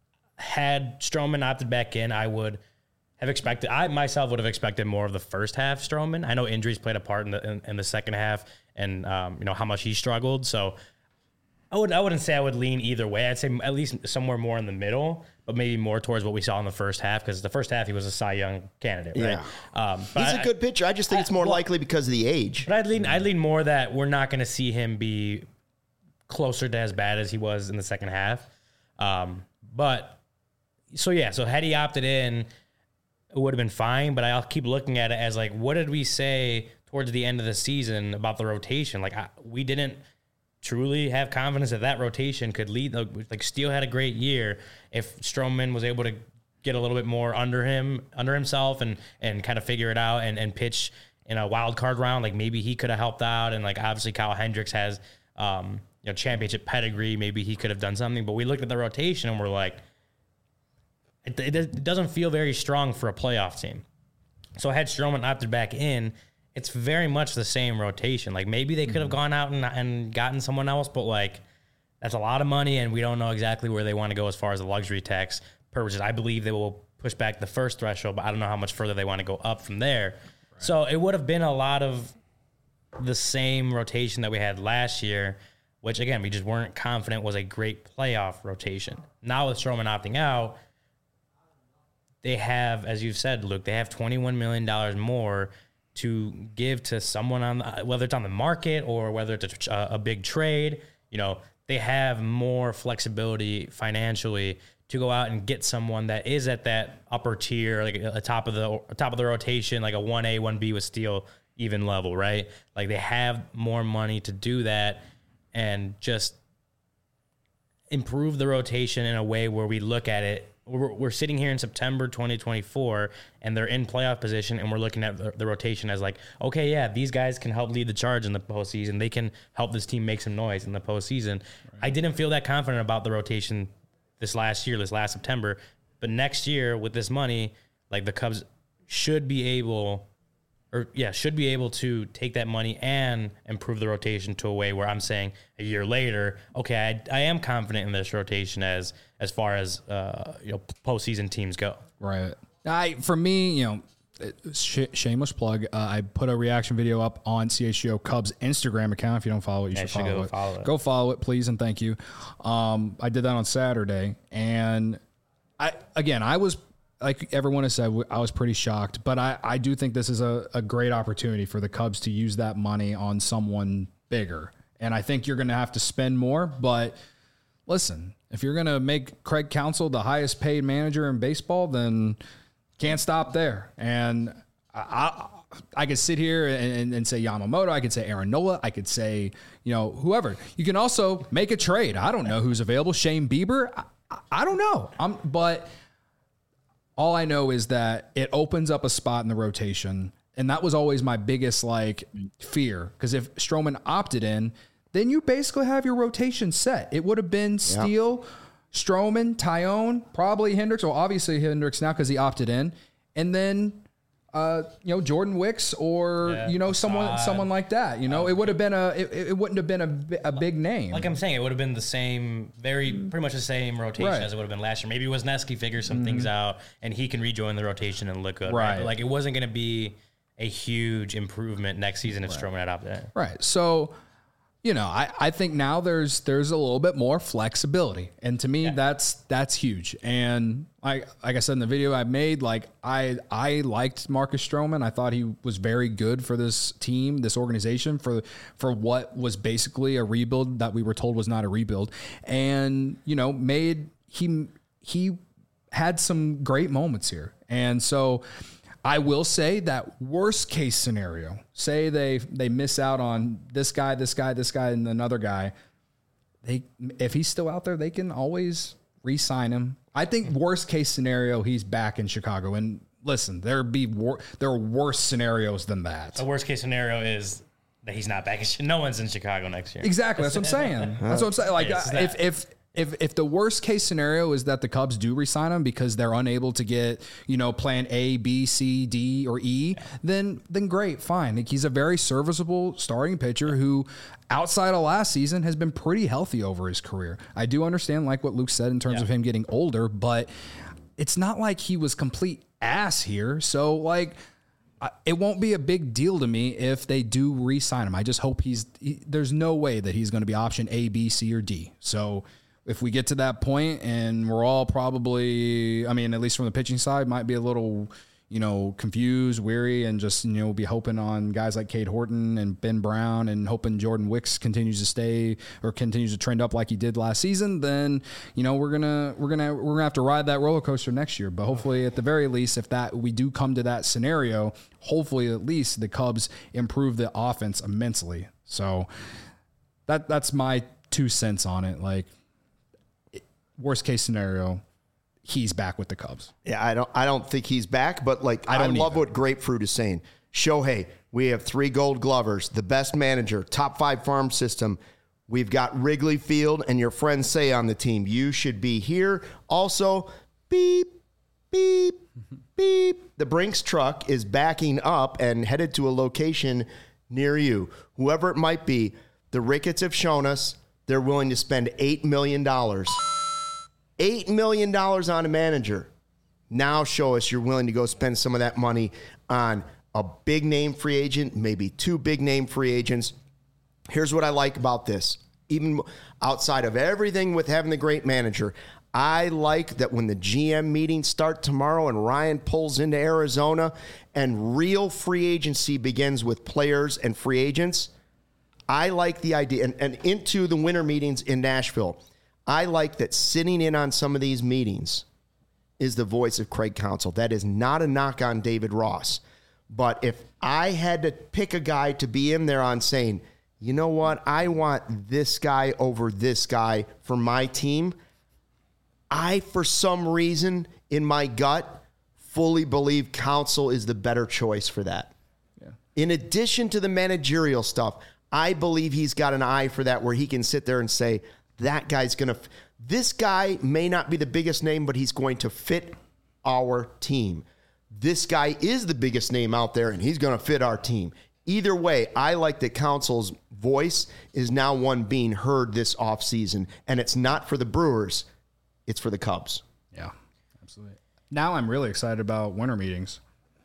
C: had Stroman opted back in, I would have expected, I myself would have expected more of the first half Stroman. I know injuries played a part in the second half and, how much he struggled. So I wouldn't say I would lean either way. I'd say at least somewhere more in the middle, but maybe more towards what we saw in the first half, because the first half he was a Cy Young candidate, right?
A: Yeah. He's a good pitcher. I just think it's more likely because of the age.
C: But I'd lean more that we're not going to see him be closer to as bad as he was in the second half. So had he opted in, it would have been fine. But I'll keep looking at it as like, what did we say towards the end of the season about the rotation? Like we didn't truly have confidence that rotation could lead. Like Steele had a great year. If Stroman was able to get a little bit more under himself and kind of figure it out and pitch in a wild card round, like maybe he could have helped out. And like obviously Kyle Hendricks has championship pedigree. Maybe he could have done something. But we looked at the rotation and we're like, it doesn't feel very strong for a playoff team. So had Stroman opted back in, it's very much the same rotation. Like maybe they could have gone out and gotten someone else, but like that's a lot of money, and we don't know exactly where they want to go as far as the luxury tax purposes. I believe they will push back the first threshold, but I don't know how much further they want to go up from there. Right. So it would have been a lot of the same rotation that we had last year, which again we just weren't confident was a great playoff rotation. Now with Stroman opting out, they have, as you've said, Luke, they have $21 million more to give to someone whether it's on the market or whether it's a big trade. They have more flexibility financially to go out and get someone that is at that upper tier, like a top of the rotation, like a 1A, 1B with Steele even level, right? Like they have more money to do that and just improve the rotation in a way where we look at it. We're sitting here in September 2024, and they're in playoff position, and we're looking at the rotation as like, okay, yeah, these guys can help lead the charge in the postseason. They can help this team make some noise in the postseason. Right. I didn't feel that confident about the rotation this last September, but next year with this money, like the Cubs should be able to take that money and improve the rotation to a way where I'm saying a year later, okay, I am confident in this rotation as far as postseason teams go.
B: Right. For me, shameless plug. I put a reaction video up on CHGO Cubs Instagram account. If you don't follow it, you should follow it. Go follow it, please, and thank you. I did that on Saturday, and I was. Like everyone has said, I was pretty shocked, but I do think this is a great opportunity for the Cubs to use that money on someone bigger. And I think you're going to have to spend more, but listen, if you're going to make Craig Counsell the highest paid manager in baseball, then can't stop there. And I could sit here and say Yamamoto. I could say Aaron Nola. I could say, whoever. You can also make a trade. I don't know who's available. Shane Bieber. I don't know. But all I know is that it opens up a spot in the rotation, and that was always my biggest fear. Because if Stroman opted in, then you basically have your rotation set. It would have been Steele, Stroman, Taillon, probably Hendricks. Well, obviously Hendricks now because he opted in, and then Jordan Wicks or someone like that. It would have been it wouldn't have been a big name.
C: Like I'm saying, it would have been the same, pretty much the same rotation as it would have been last year. Maybe Wisniewski figures some things out and he can rejoin the rotation and look good. Right. But it wasn't going to be a huge improvement next season if Stroman had opted in.
B: Right. So, I think now there's a little bit more flexibility, and to me that's huge. And like I said in the video I made, I liked Marcus Stroman. I thought he was very good for this team, this organization, for what was basically a rebuild that we were told was not a rebuild. And he had some great moments here, and so. I will say that worst case scenario, say they miss out on this guy, and another guy. If he's still out there, they can always re-sign him. I think worst case scenario, he's back in Chicago. And listen, there are worse scenarios than that.
C: The worst case scenario is that he's not back. No one's in Chicago next year.
B: Exactly. That's what I'm saying. If the worst case scenario is that the Cubs do re-sign him because they're unable to get, plan A, B, C, D, or E, then great, fine. He's a very serviceable starting pitcher who, outside of last season, has been pretty healthy over his career. I do understand, like what Luke said, in terms of him getting older, but it's not like he was complete ass here. So, it won't be a big deal to me if they do re-sign him. I just hope there's no way that he's going to be option A, B, C, or D. So if we get to that point and we're all probably, I mean, at least from the pitching side, might be a little, confused, weary, and just, be hoping on guys like Cade Horton and Ben Brown and hoping Jordan Wicks continues to stay or continues to trend up like he did last season, then, we're gonna have to ride that roller coaster next year. But hopefully at the very least, if we do come to that scenario, hopefully at least the Cubs improve the offense immensely. So that's my 2 cents on it. Like, worst case scenario, he's back with the Cubs.
A: Yeah, I don't think he's back, but I love what Grapefruit is saying. Shohei, we have 3 Gold Glovers, the best manager, top 5 farm system. We've got Wrigley Field and your friends say on the team, you should be here. Also, beep, beep, beep. The Brinks truck is backing up and headed to a location near you. Whoever it might be, the Ricketts have shown us they're willing to spend $8 million. $8 million on a manager. Now show us you're willing to go spend some of that money on a big name free agent, maybe 2 big name free agents. Here's what I like about this. Even outside of everything with having the great manager, I like that when the GM meetings start tomorrow and Ryan pulls into Arizona and real free agency begins with players and free agents, I like the idea. And into the winter meetings in Nashville, I like that sitting in on some of these meetings is the voice of Craig Counsell. That is not a knock on David Ross. But if I had to pick a guy to be in there on saying, you know what, I want this guy over this guy for my team, I, for some reason, in my gut, fully believe Counsell is the better choice for that. Yeah. In addition to the managerial stuff, I believe he's got an eye for that where he can sit there and say, that guy's going to, this guy may not be the biggest name, but he's going to fit our team. This guy is the biggest name out there, and he's going to fit our team. Either way, I like that Counsell's voice is now one being heard this offseason, and it's not for the Brewers, it's for the Cubs.
B: Yeah, absolutely. Now I'm really excited about winter meetings.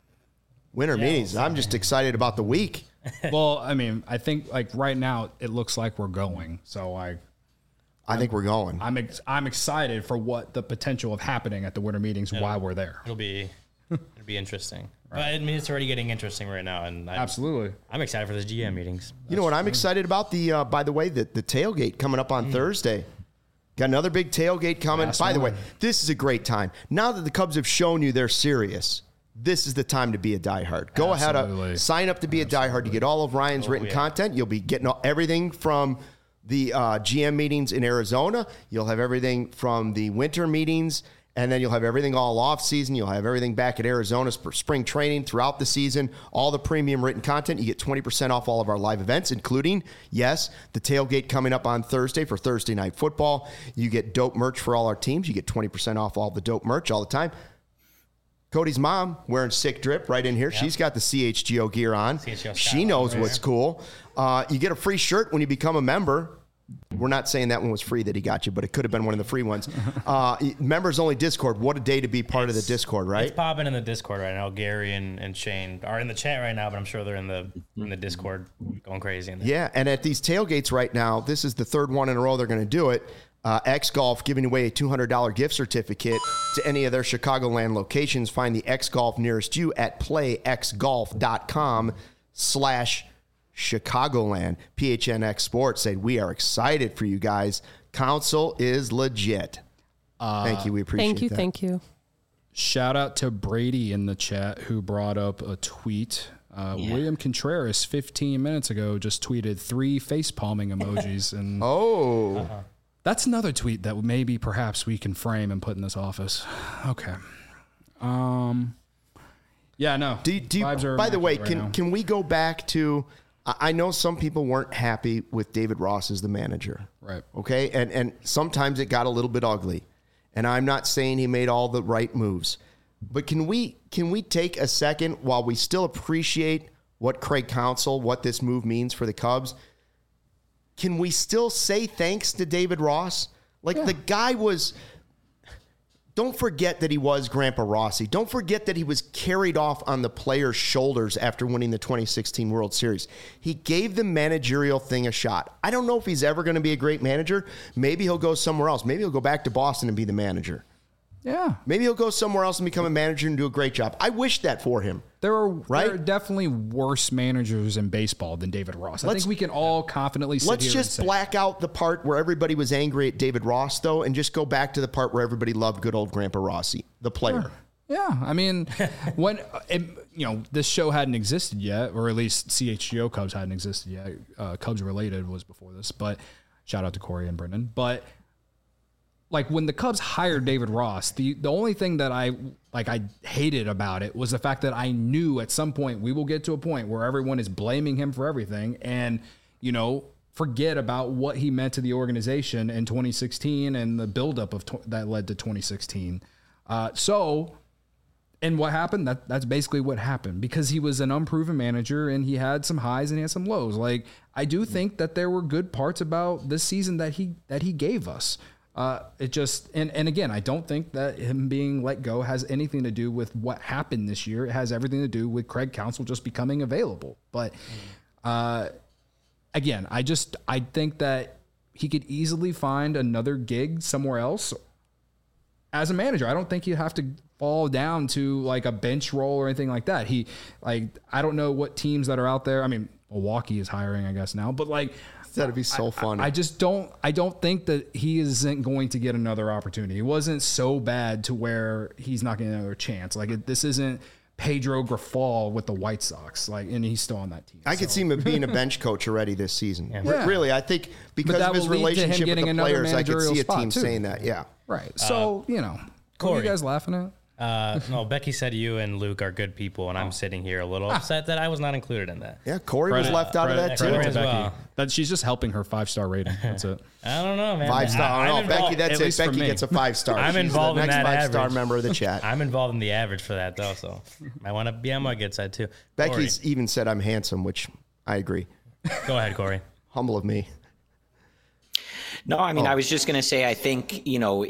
A: Winter meetings. I'm just excited about the week.
B: Well, I mean, I think right now it looks like we're going. So I
A: think we're going.
B: I'm excited for what the potential of happening at the winter meetings while we're there.
C: It'll be interesting. Right. But I mean, it's already getting interesting right now, and
B: absolutely,
C: I'm excited for those GM meetings.
A: You know what I'm excited about? By the way, the tailgate coming up on Thursday. Got another big tailgate coming. By the way, this is a great time. Now that the Cubs have shown you they're serious, this is the time to be a diehard. Go ahead, sign up to be a diehard. You get all of Ryan's written content. You'll be getting everything from the GM meetings in Arizona. You'll have everything from the winter meetings, and then you'll have everything all off season. You'll have everything back at Arizona for spring training throughout the season. All the premium written content. You get 20% off all of our live events, including, yes, the tailgate coming up on Thursday for Thursday Night Football. You get dope merch for all our teams. You get 20% off all the dope merch all the time. Cody's mom wearing Sick Drip right in here. Yep. She's got the CHGO gear on. She knows what's cool. You get a free shirt when you become a member. We're not saying that one was free that he got you, but it could have been one of the free ones. Members only Discord. What a day to be part of the Discord, right?
C: It's popping in the Discord right now. Gary and Shane are in the chat right now, but I'm sure they're in the Discord going crazy. In there.
A: Yeah, and at these tailgates right now, this is the third one in a row they're going to do it. X Golf giving away a $200 gift certificate to any of their Chicagoland locations. Find the X Golf nearest you at playxgolf.com/Chicagoland. PHNX Sports said, we are excited for you guys. Counsell is legit. Thank you. We appreciate that.
D: Thank you.
B: Shout out to Brady in the chat who brought up a tweet. William Contreras 15 minutes ago just tweeted 3 face palming emojis. And that's another tweet that maybe perhaps we can frame and put in this office. Okay. Yeah, no.
A: By the way, can we go back to, I know some people weren't happy with David Ross as the manager.
B: Right.
A: Okay. And sometimes it got a little bit ugly. And I'm not saying he made all the right moves. But can we take a second while we still appreciate what Craig Counsell, what this move means for the Cubs? Can we still say thanks to David Ross? The guy was don't forget that he was Grandpa Rossi. Don't forget that he was carried off on the players' shoulders after winning the 2016 World Series. He gave the managerial thing a shot. I don't know if he's ever going to be a great manager. Maybe he'll go somewhere else. Maybe he'll go back to Boston and be the manager.
B: Yeah.
A: Maybe he'll go somewhere else and become a manager and do a great job. I wish that for him.
B: There are definitely worse managers in baseball than David Ross. I think we can all confidently sit
A: Let's
B: here
A: just
B: and say,
A: black out the part where everybody was angry at David Ross, though, and just go back to the part where everybody loved good old Grandpa Rossi, the player.
B: Yeah, I mean, when this show hadn't existed yet, or at least CHGO Cubs hadn't existed yet. Cubs Related was before this, but shout out to Corey and Brendan. But like when the Cubs hired David Ross, the only thing that I hated about it was the fact that I knew at some point we will get to a point where everyone is blaming him for everything and, forget about what he meant to the organization in 2016 and the buildup of that led to 2016. And what happened? That's basically what happened because he was an unproven manager and he had some highs and he had some lows. Like I do think that there were good parts about this season that he gave us. It just, and again, I don't think that him being let go has anything to do with what happened this year. It has everything to do with Craig Counsell just becoming available. But, again, I think that he could easily find another gig somewhere else as a manager. I don't think he'd have to fall down to like a bench role or anything like that. I don't know what teams that are out there. I mean, Milwaukee is hiring, I guess now, but like,
A: That'd be so funny.
B: I don't think that he isn't going to get another opportunity. It wasn't so bad to where he's not getting another chance. Like this isn't Pedro Grifol with the White Sox. And he's still on that team.
A: I could see him being a bench coach already this season.
B: Yeah.
A: Really, I think because of his relationship with the players, I could see a team saying that. Yeah.
B: Right. So, Corey, what are you guys laughing at?
C: No, Becky said you and Luke are good people, and I'm sitting here a little upset that I was not included in that.
A: Yeah, Corey was left out of that too.
C: Credit to Becky.
B: That she's just helping her 5-star rating. That's it.
C: I don't know, man.
A: 5-star. I don't know, Becky. That's it. Becky gets a 5-star.
C: I'm
A: She's
C: involved
A: the
C: in
A: next
C: that
A: 5-star
C: average.
A: member of the chat.
C: I'm involved in the average for that though, so I want to be on my good side too.
A: Becky's even said I'm handsome, which I agree.
C: Go ahead, Corey.
A: Humble of me.
E: No, I mean, I was just going to say, I think,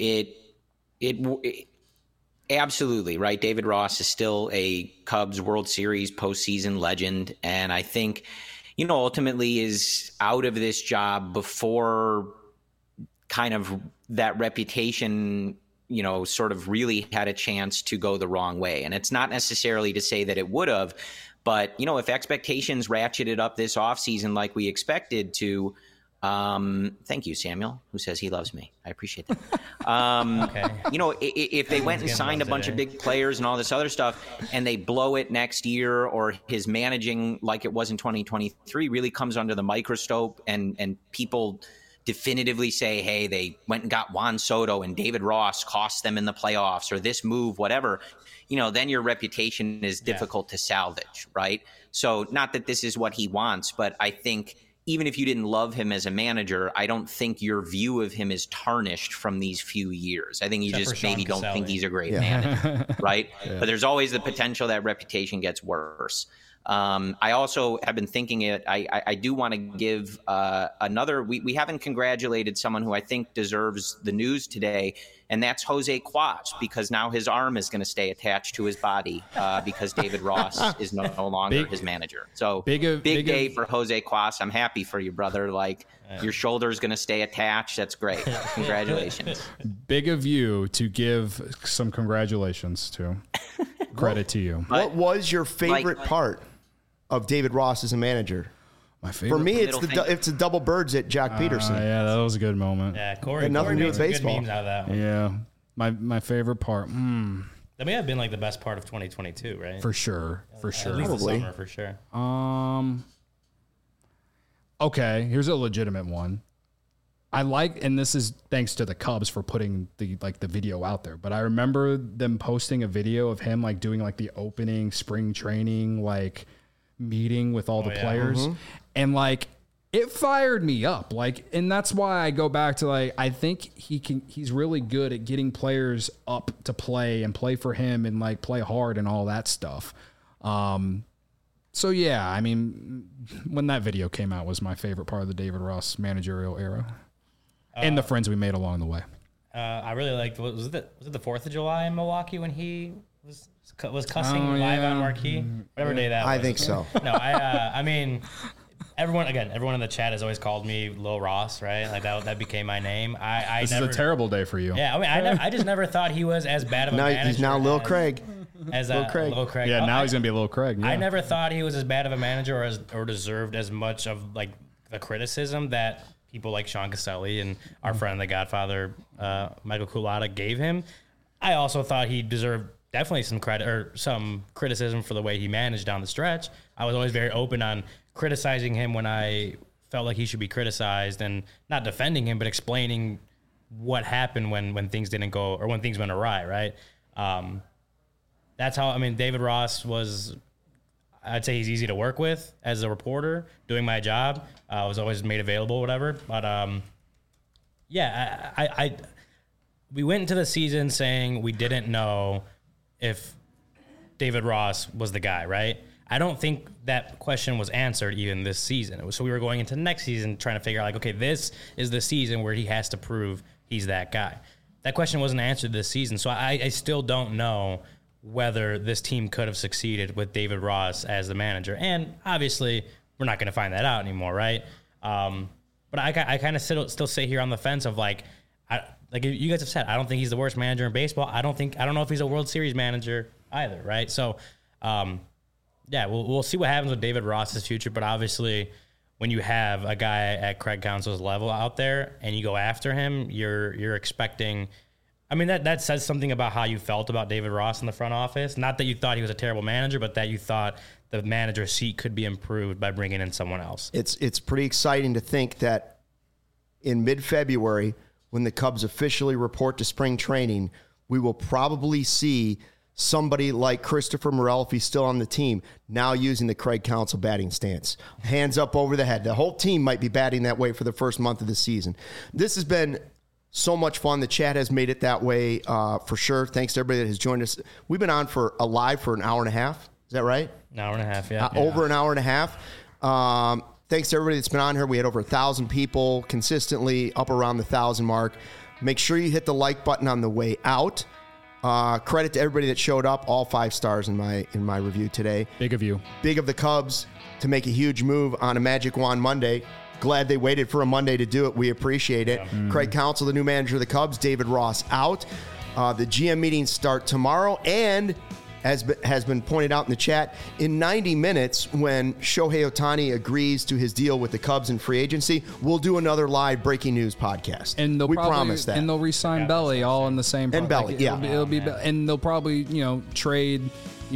E: it absolutely, right? David Ross is still a Cubs World Series postseason legend. And I think, ultimately is out of this job before kind of that reputation, sort of really had a chance to go the wrong way. And it's not necessarily to say that it would have, but, if expectations ratcheted up this offseason like we expected to, thank you, Samuel, who says he loves me. I appreciate that.
C: Okay.
E: If they went and signed a bunch of big players and all this other stuff and they blow it next year, or his managing like it was in 2023 really comes under the microscope and people definitively say, hey, they went and got Juan Soto and David Ross cost them in the playoffs, or this move, whatever, then your reputation is difficult to salvage, right? So not that this is what he wants, but I think even if you didn't love him as a manager, I don't think your view of him is tarnished from these few years. I think you just maybe don't think he's a great manager, right? Yeah. But there's always the potential that reputation gets worse. I also have been thinking I do want to give another, we haven't congratulated someone who I think deserves the news today, and that's Jose Quas, because now his arm is going to stay attached to his body because David Ross is no longer his manager. So big day for Jose Quas. I'm happy for you, brother. Your shoulder is going to stay attached. That's great. Congratulations.
B: Big of you to give some congratulations to. Credit to you.
A: What was your favorite part of David Ross as a manager?
B: My favorite.
A: For me, it's the double birds at Jack Peterson.
B: Yeah, that was a good moment.
C: Yeah, Corey.
A: Had nothing to do
C: made
A: with
C: some
A: baseball.
C: good memes out of that one.
B: Yeah, my favorite part.
C: That may have been like the best part of 2022, right?
B: For sure.
C: At least
A: Probably.
C: the summer, for sure.
B: Okay, here's a legitimate one. I like, and this is thanks to the Cubs for putting the video out there, but I remember them posting a video of him doing the opening spring training meeting with all the players, and it fired me up. And that's why I go back to I think he's really good at getting players up to play and play for him and play hard and all that stuff. So yeah, I mean, when that video came out was my favorite part of the David Ross managerial era. And the friends we made along the way.
C: I really liked. Was it the 4th of July in Milwaukee when he was cussing live on Marquee? Whatever day that was.
A: I think so.
C: No, I mean, everyone in the chat has always called me Lil Ross, right? Like that became my name.
B: This is a terrible day for you.
C: Yeah, I mean, I just never thought he was as bad of a manager.
A: He's now Lil Craig.
C: As Lil Craig.
B: Yeah, now he's gonna be Lil Craig. Yeah.
C: I never thought he was as bad of a manager or deserved as much of like the criticism that people like Sean Caselli and our friend, the Godfather, Michael Culata, gave him. I also thought he deserved definitely some credit or some criticism for the way he managed down the stretch. I was always very open on criticizing him when I felt like he should be criticized, and not defending him, but explaining what happened when things didn't go or when things went awry, right? That's how, I mean, David Ross was, I'd say he's easy to work with as a reporter, doing my job. I was always made available, whatever. But yeah, we went into the season saying we didn't know if David Ross was the guy, right? I don't think that question was answered even this season. So we were going into next season trying to figure out, like, okay, this is the season where he has to prove he's that guy. That question wasn't answered this season. So I still don't know whether this team could have succeeded with David Ross as the manager. And obviously, we're not going to find that out anymore, right? But I kind of still sit here on the fence of like you guys have said, I don't think he's the worst manager in baseball. I don't know if he's a World Series manager either, right? So, yeah, we'll see what happens with David Ross's future. But obviously, when you have a guy at Craig Counsell's level out there and you go after him, you're expecting. I mean, that says something about how you felt about David Ross in the front office. Not that you thought he was a terrible manager, but that you thought the manager's seat could be improved by bringing in someone else.
A: It's pretty exciting to think that in mid-February, when the Cubs officially report to spring training, we will probably see somebody like Christopher Morel, if he's still on the team, now using the Craig Counsell batting stance. Hands up over the head. The whole team might be batting that way for the first month of the season. This has been so much fun. The chat has made it that way for sure. Thanks to everybody that has joined us. We've been on live for an hour and a half. Is that right?
C: An hour and a half, yeah.
A: Over an hour and a half. Thanks to everybody that's been on here. We had over 1,000 people consistently up around the 1,000 mark. Make sure you hit the like button on the way out. Credit to everybody that showed up. All 5 stars in my review today.
B: Big of you.
A: Big of the Cubs to make a huge move on a Magic Wand Monday. Glad they waited for a Monday to do it. We appreciate it. Yeah. Craig Counsell, the new manager of the Cubs. David Ross out. The GM meetings start tomorrow, and as has been pointed out in the chat, in 90 minutes, when Shohei Ohtani agrees to his deal with the Cubs in free agency, we'll do another live breaking news podcast.
B: And
A: we promise that.
B: And they'll re-sign Belly all in the same.
A: And Belly, yeah.
B: It'll be, and they'll probably trade,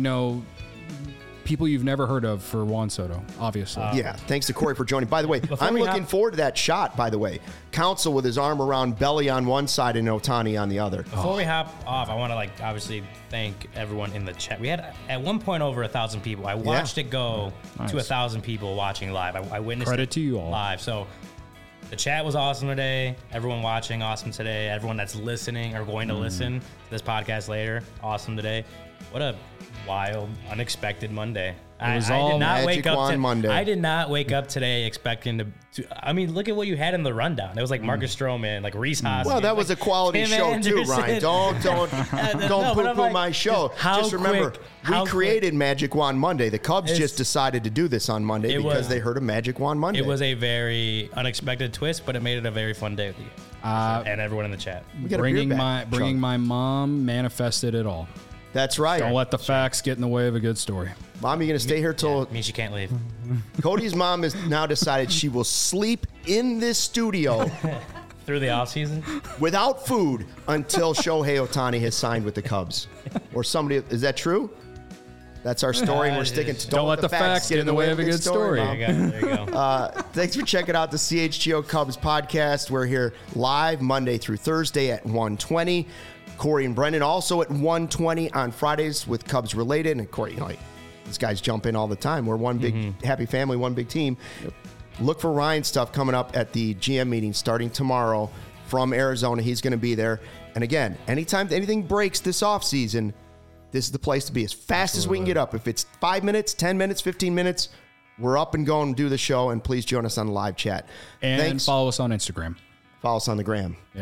B: people you've never heard of for Juan Soto, obviously.
A: Yeah, thanks to Corey for joining. By the way, I'm looking forward to that shot, by the way. Counsell with his arm around Belly on one side and Ohtani on the other.
C: Before we hop off, I want to obviously thank everyone in the chat. We had at one point over 1,000 people. I watched it go to 1,000 people watching live. I witnessed
B: Credit to you all.
C: Live. So the chat was awesome today. Everyone watching, awesome today. Everyone that's listening or going to listen to this podcast later, awesome today. What a wild, unexpected Monday. I did not wake up
A: Monday.
C: I did not wake up today expecting to. I mean, look at what you had in the rundown. It was like Marcus Stroman, like Rhys Hoskins.
A: Well, that was a quality show too, Ryan. Don't poo-poo my show. Just remember, we created Magic Wand Monday. The Cubs just decided to do this on Monday because they heard of Magic Wand Monday.
C: It was a very unexpected twist, but it made it a very fun day with you and everyone in the chat.
B: Bringing my mom manifested it all.
A: That's right.
B: Don't let the facts get in the way of a good story.
A: Mom, you going to stay here till...
C: means you can't leave.
A: Cody's mom has now decided she will sleep in this studio...
C: through the offseason?
A: ...without food until Shohei Ohtani has signed with the Cubs. Or somebody... Is that true? That's our story, and we're sticking to...
B: Don't let the facts get in the way of a good story.
C: There you go.
A: Thanks for checking out the CHGO Cubs podcast. We're here live Monday through Thursday at 1:20. Corey and Brendan also at 1:20 on Fridays with Cubs related. And Corey, these guys jump in all the time. We're one big happy family, one big team. Yep. Look for Ryan's stuff coming up at the GM meeting starting tomorrow from Arizona. He's going to be there. And again, anytime anything breaks this offseason, this is the place to be. As fast as we can get up. If it's 5 minutes, 10 minutes, 15 minutes, we're up and going to do the show. And please join us on the live chat.
B: And follow us on Instagram.
A: Follow us on the gram.
B: Yeah.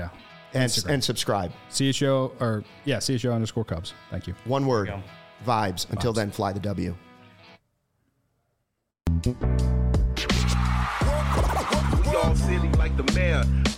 A: and subscribe.
B: CHO_Cubs. Thank you.
A: One word, vibes. Until then, fly the W.
F: Y'all silly like the mayor.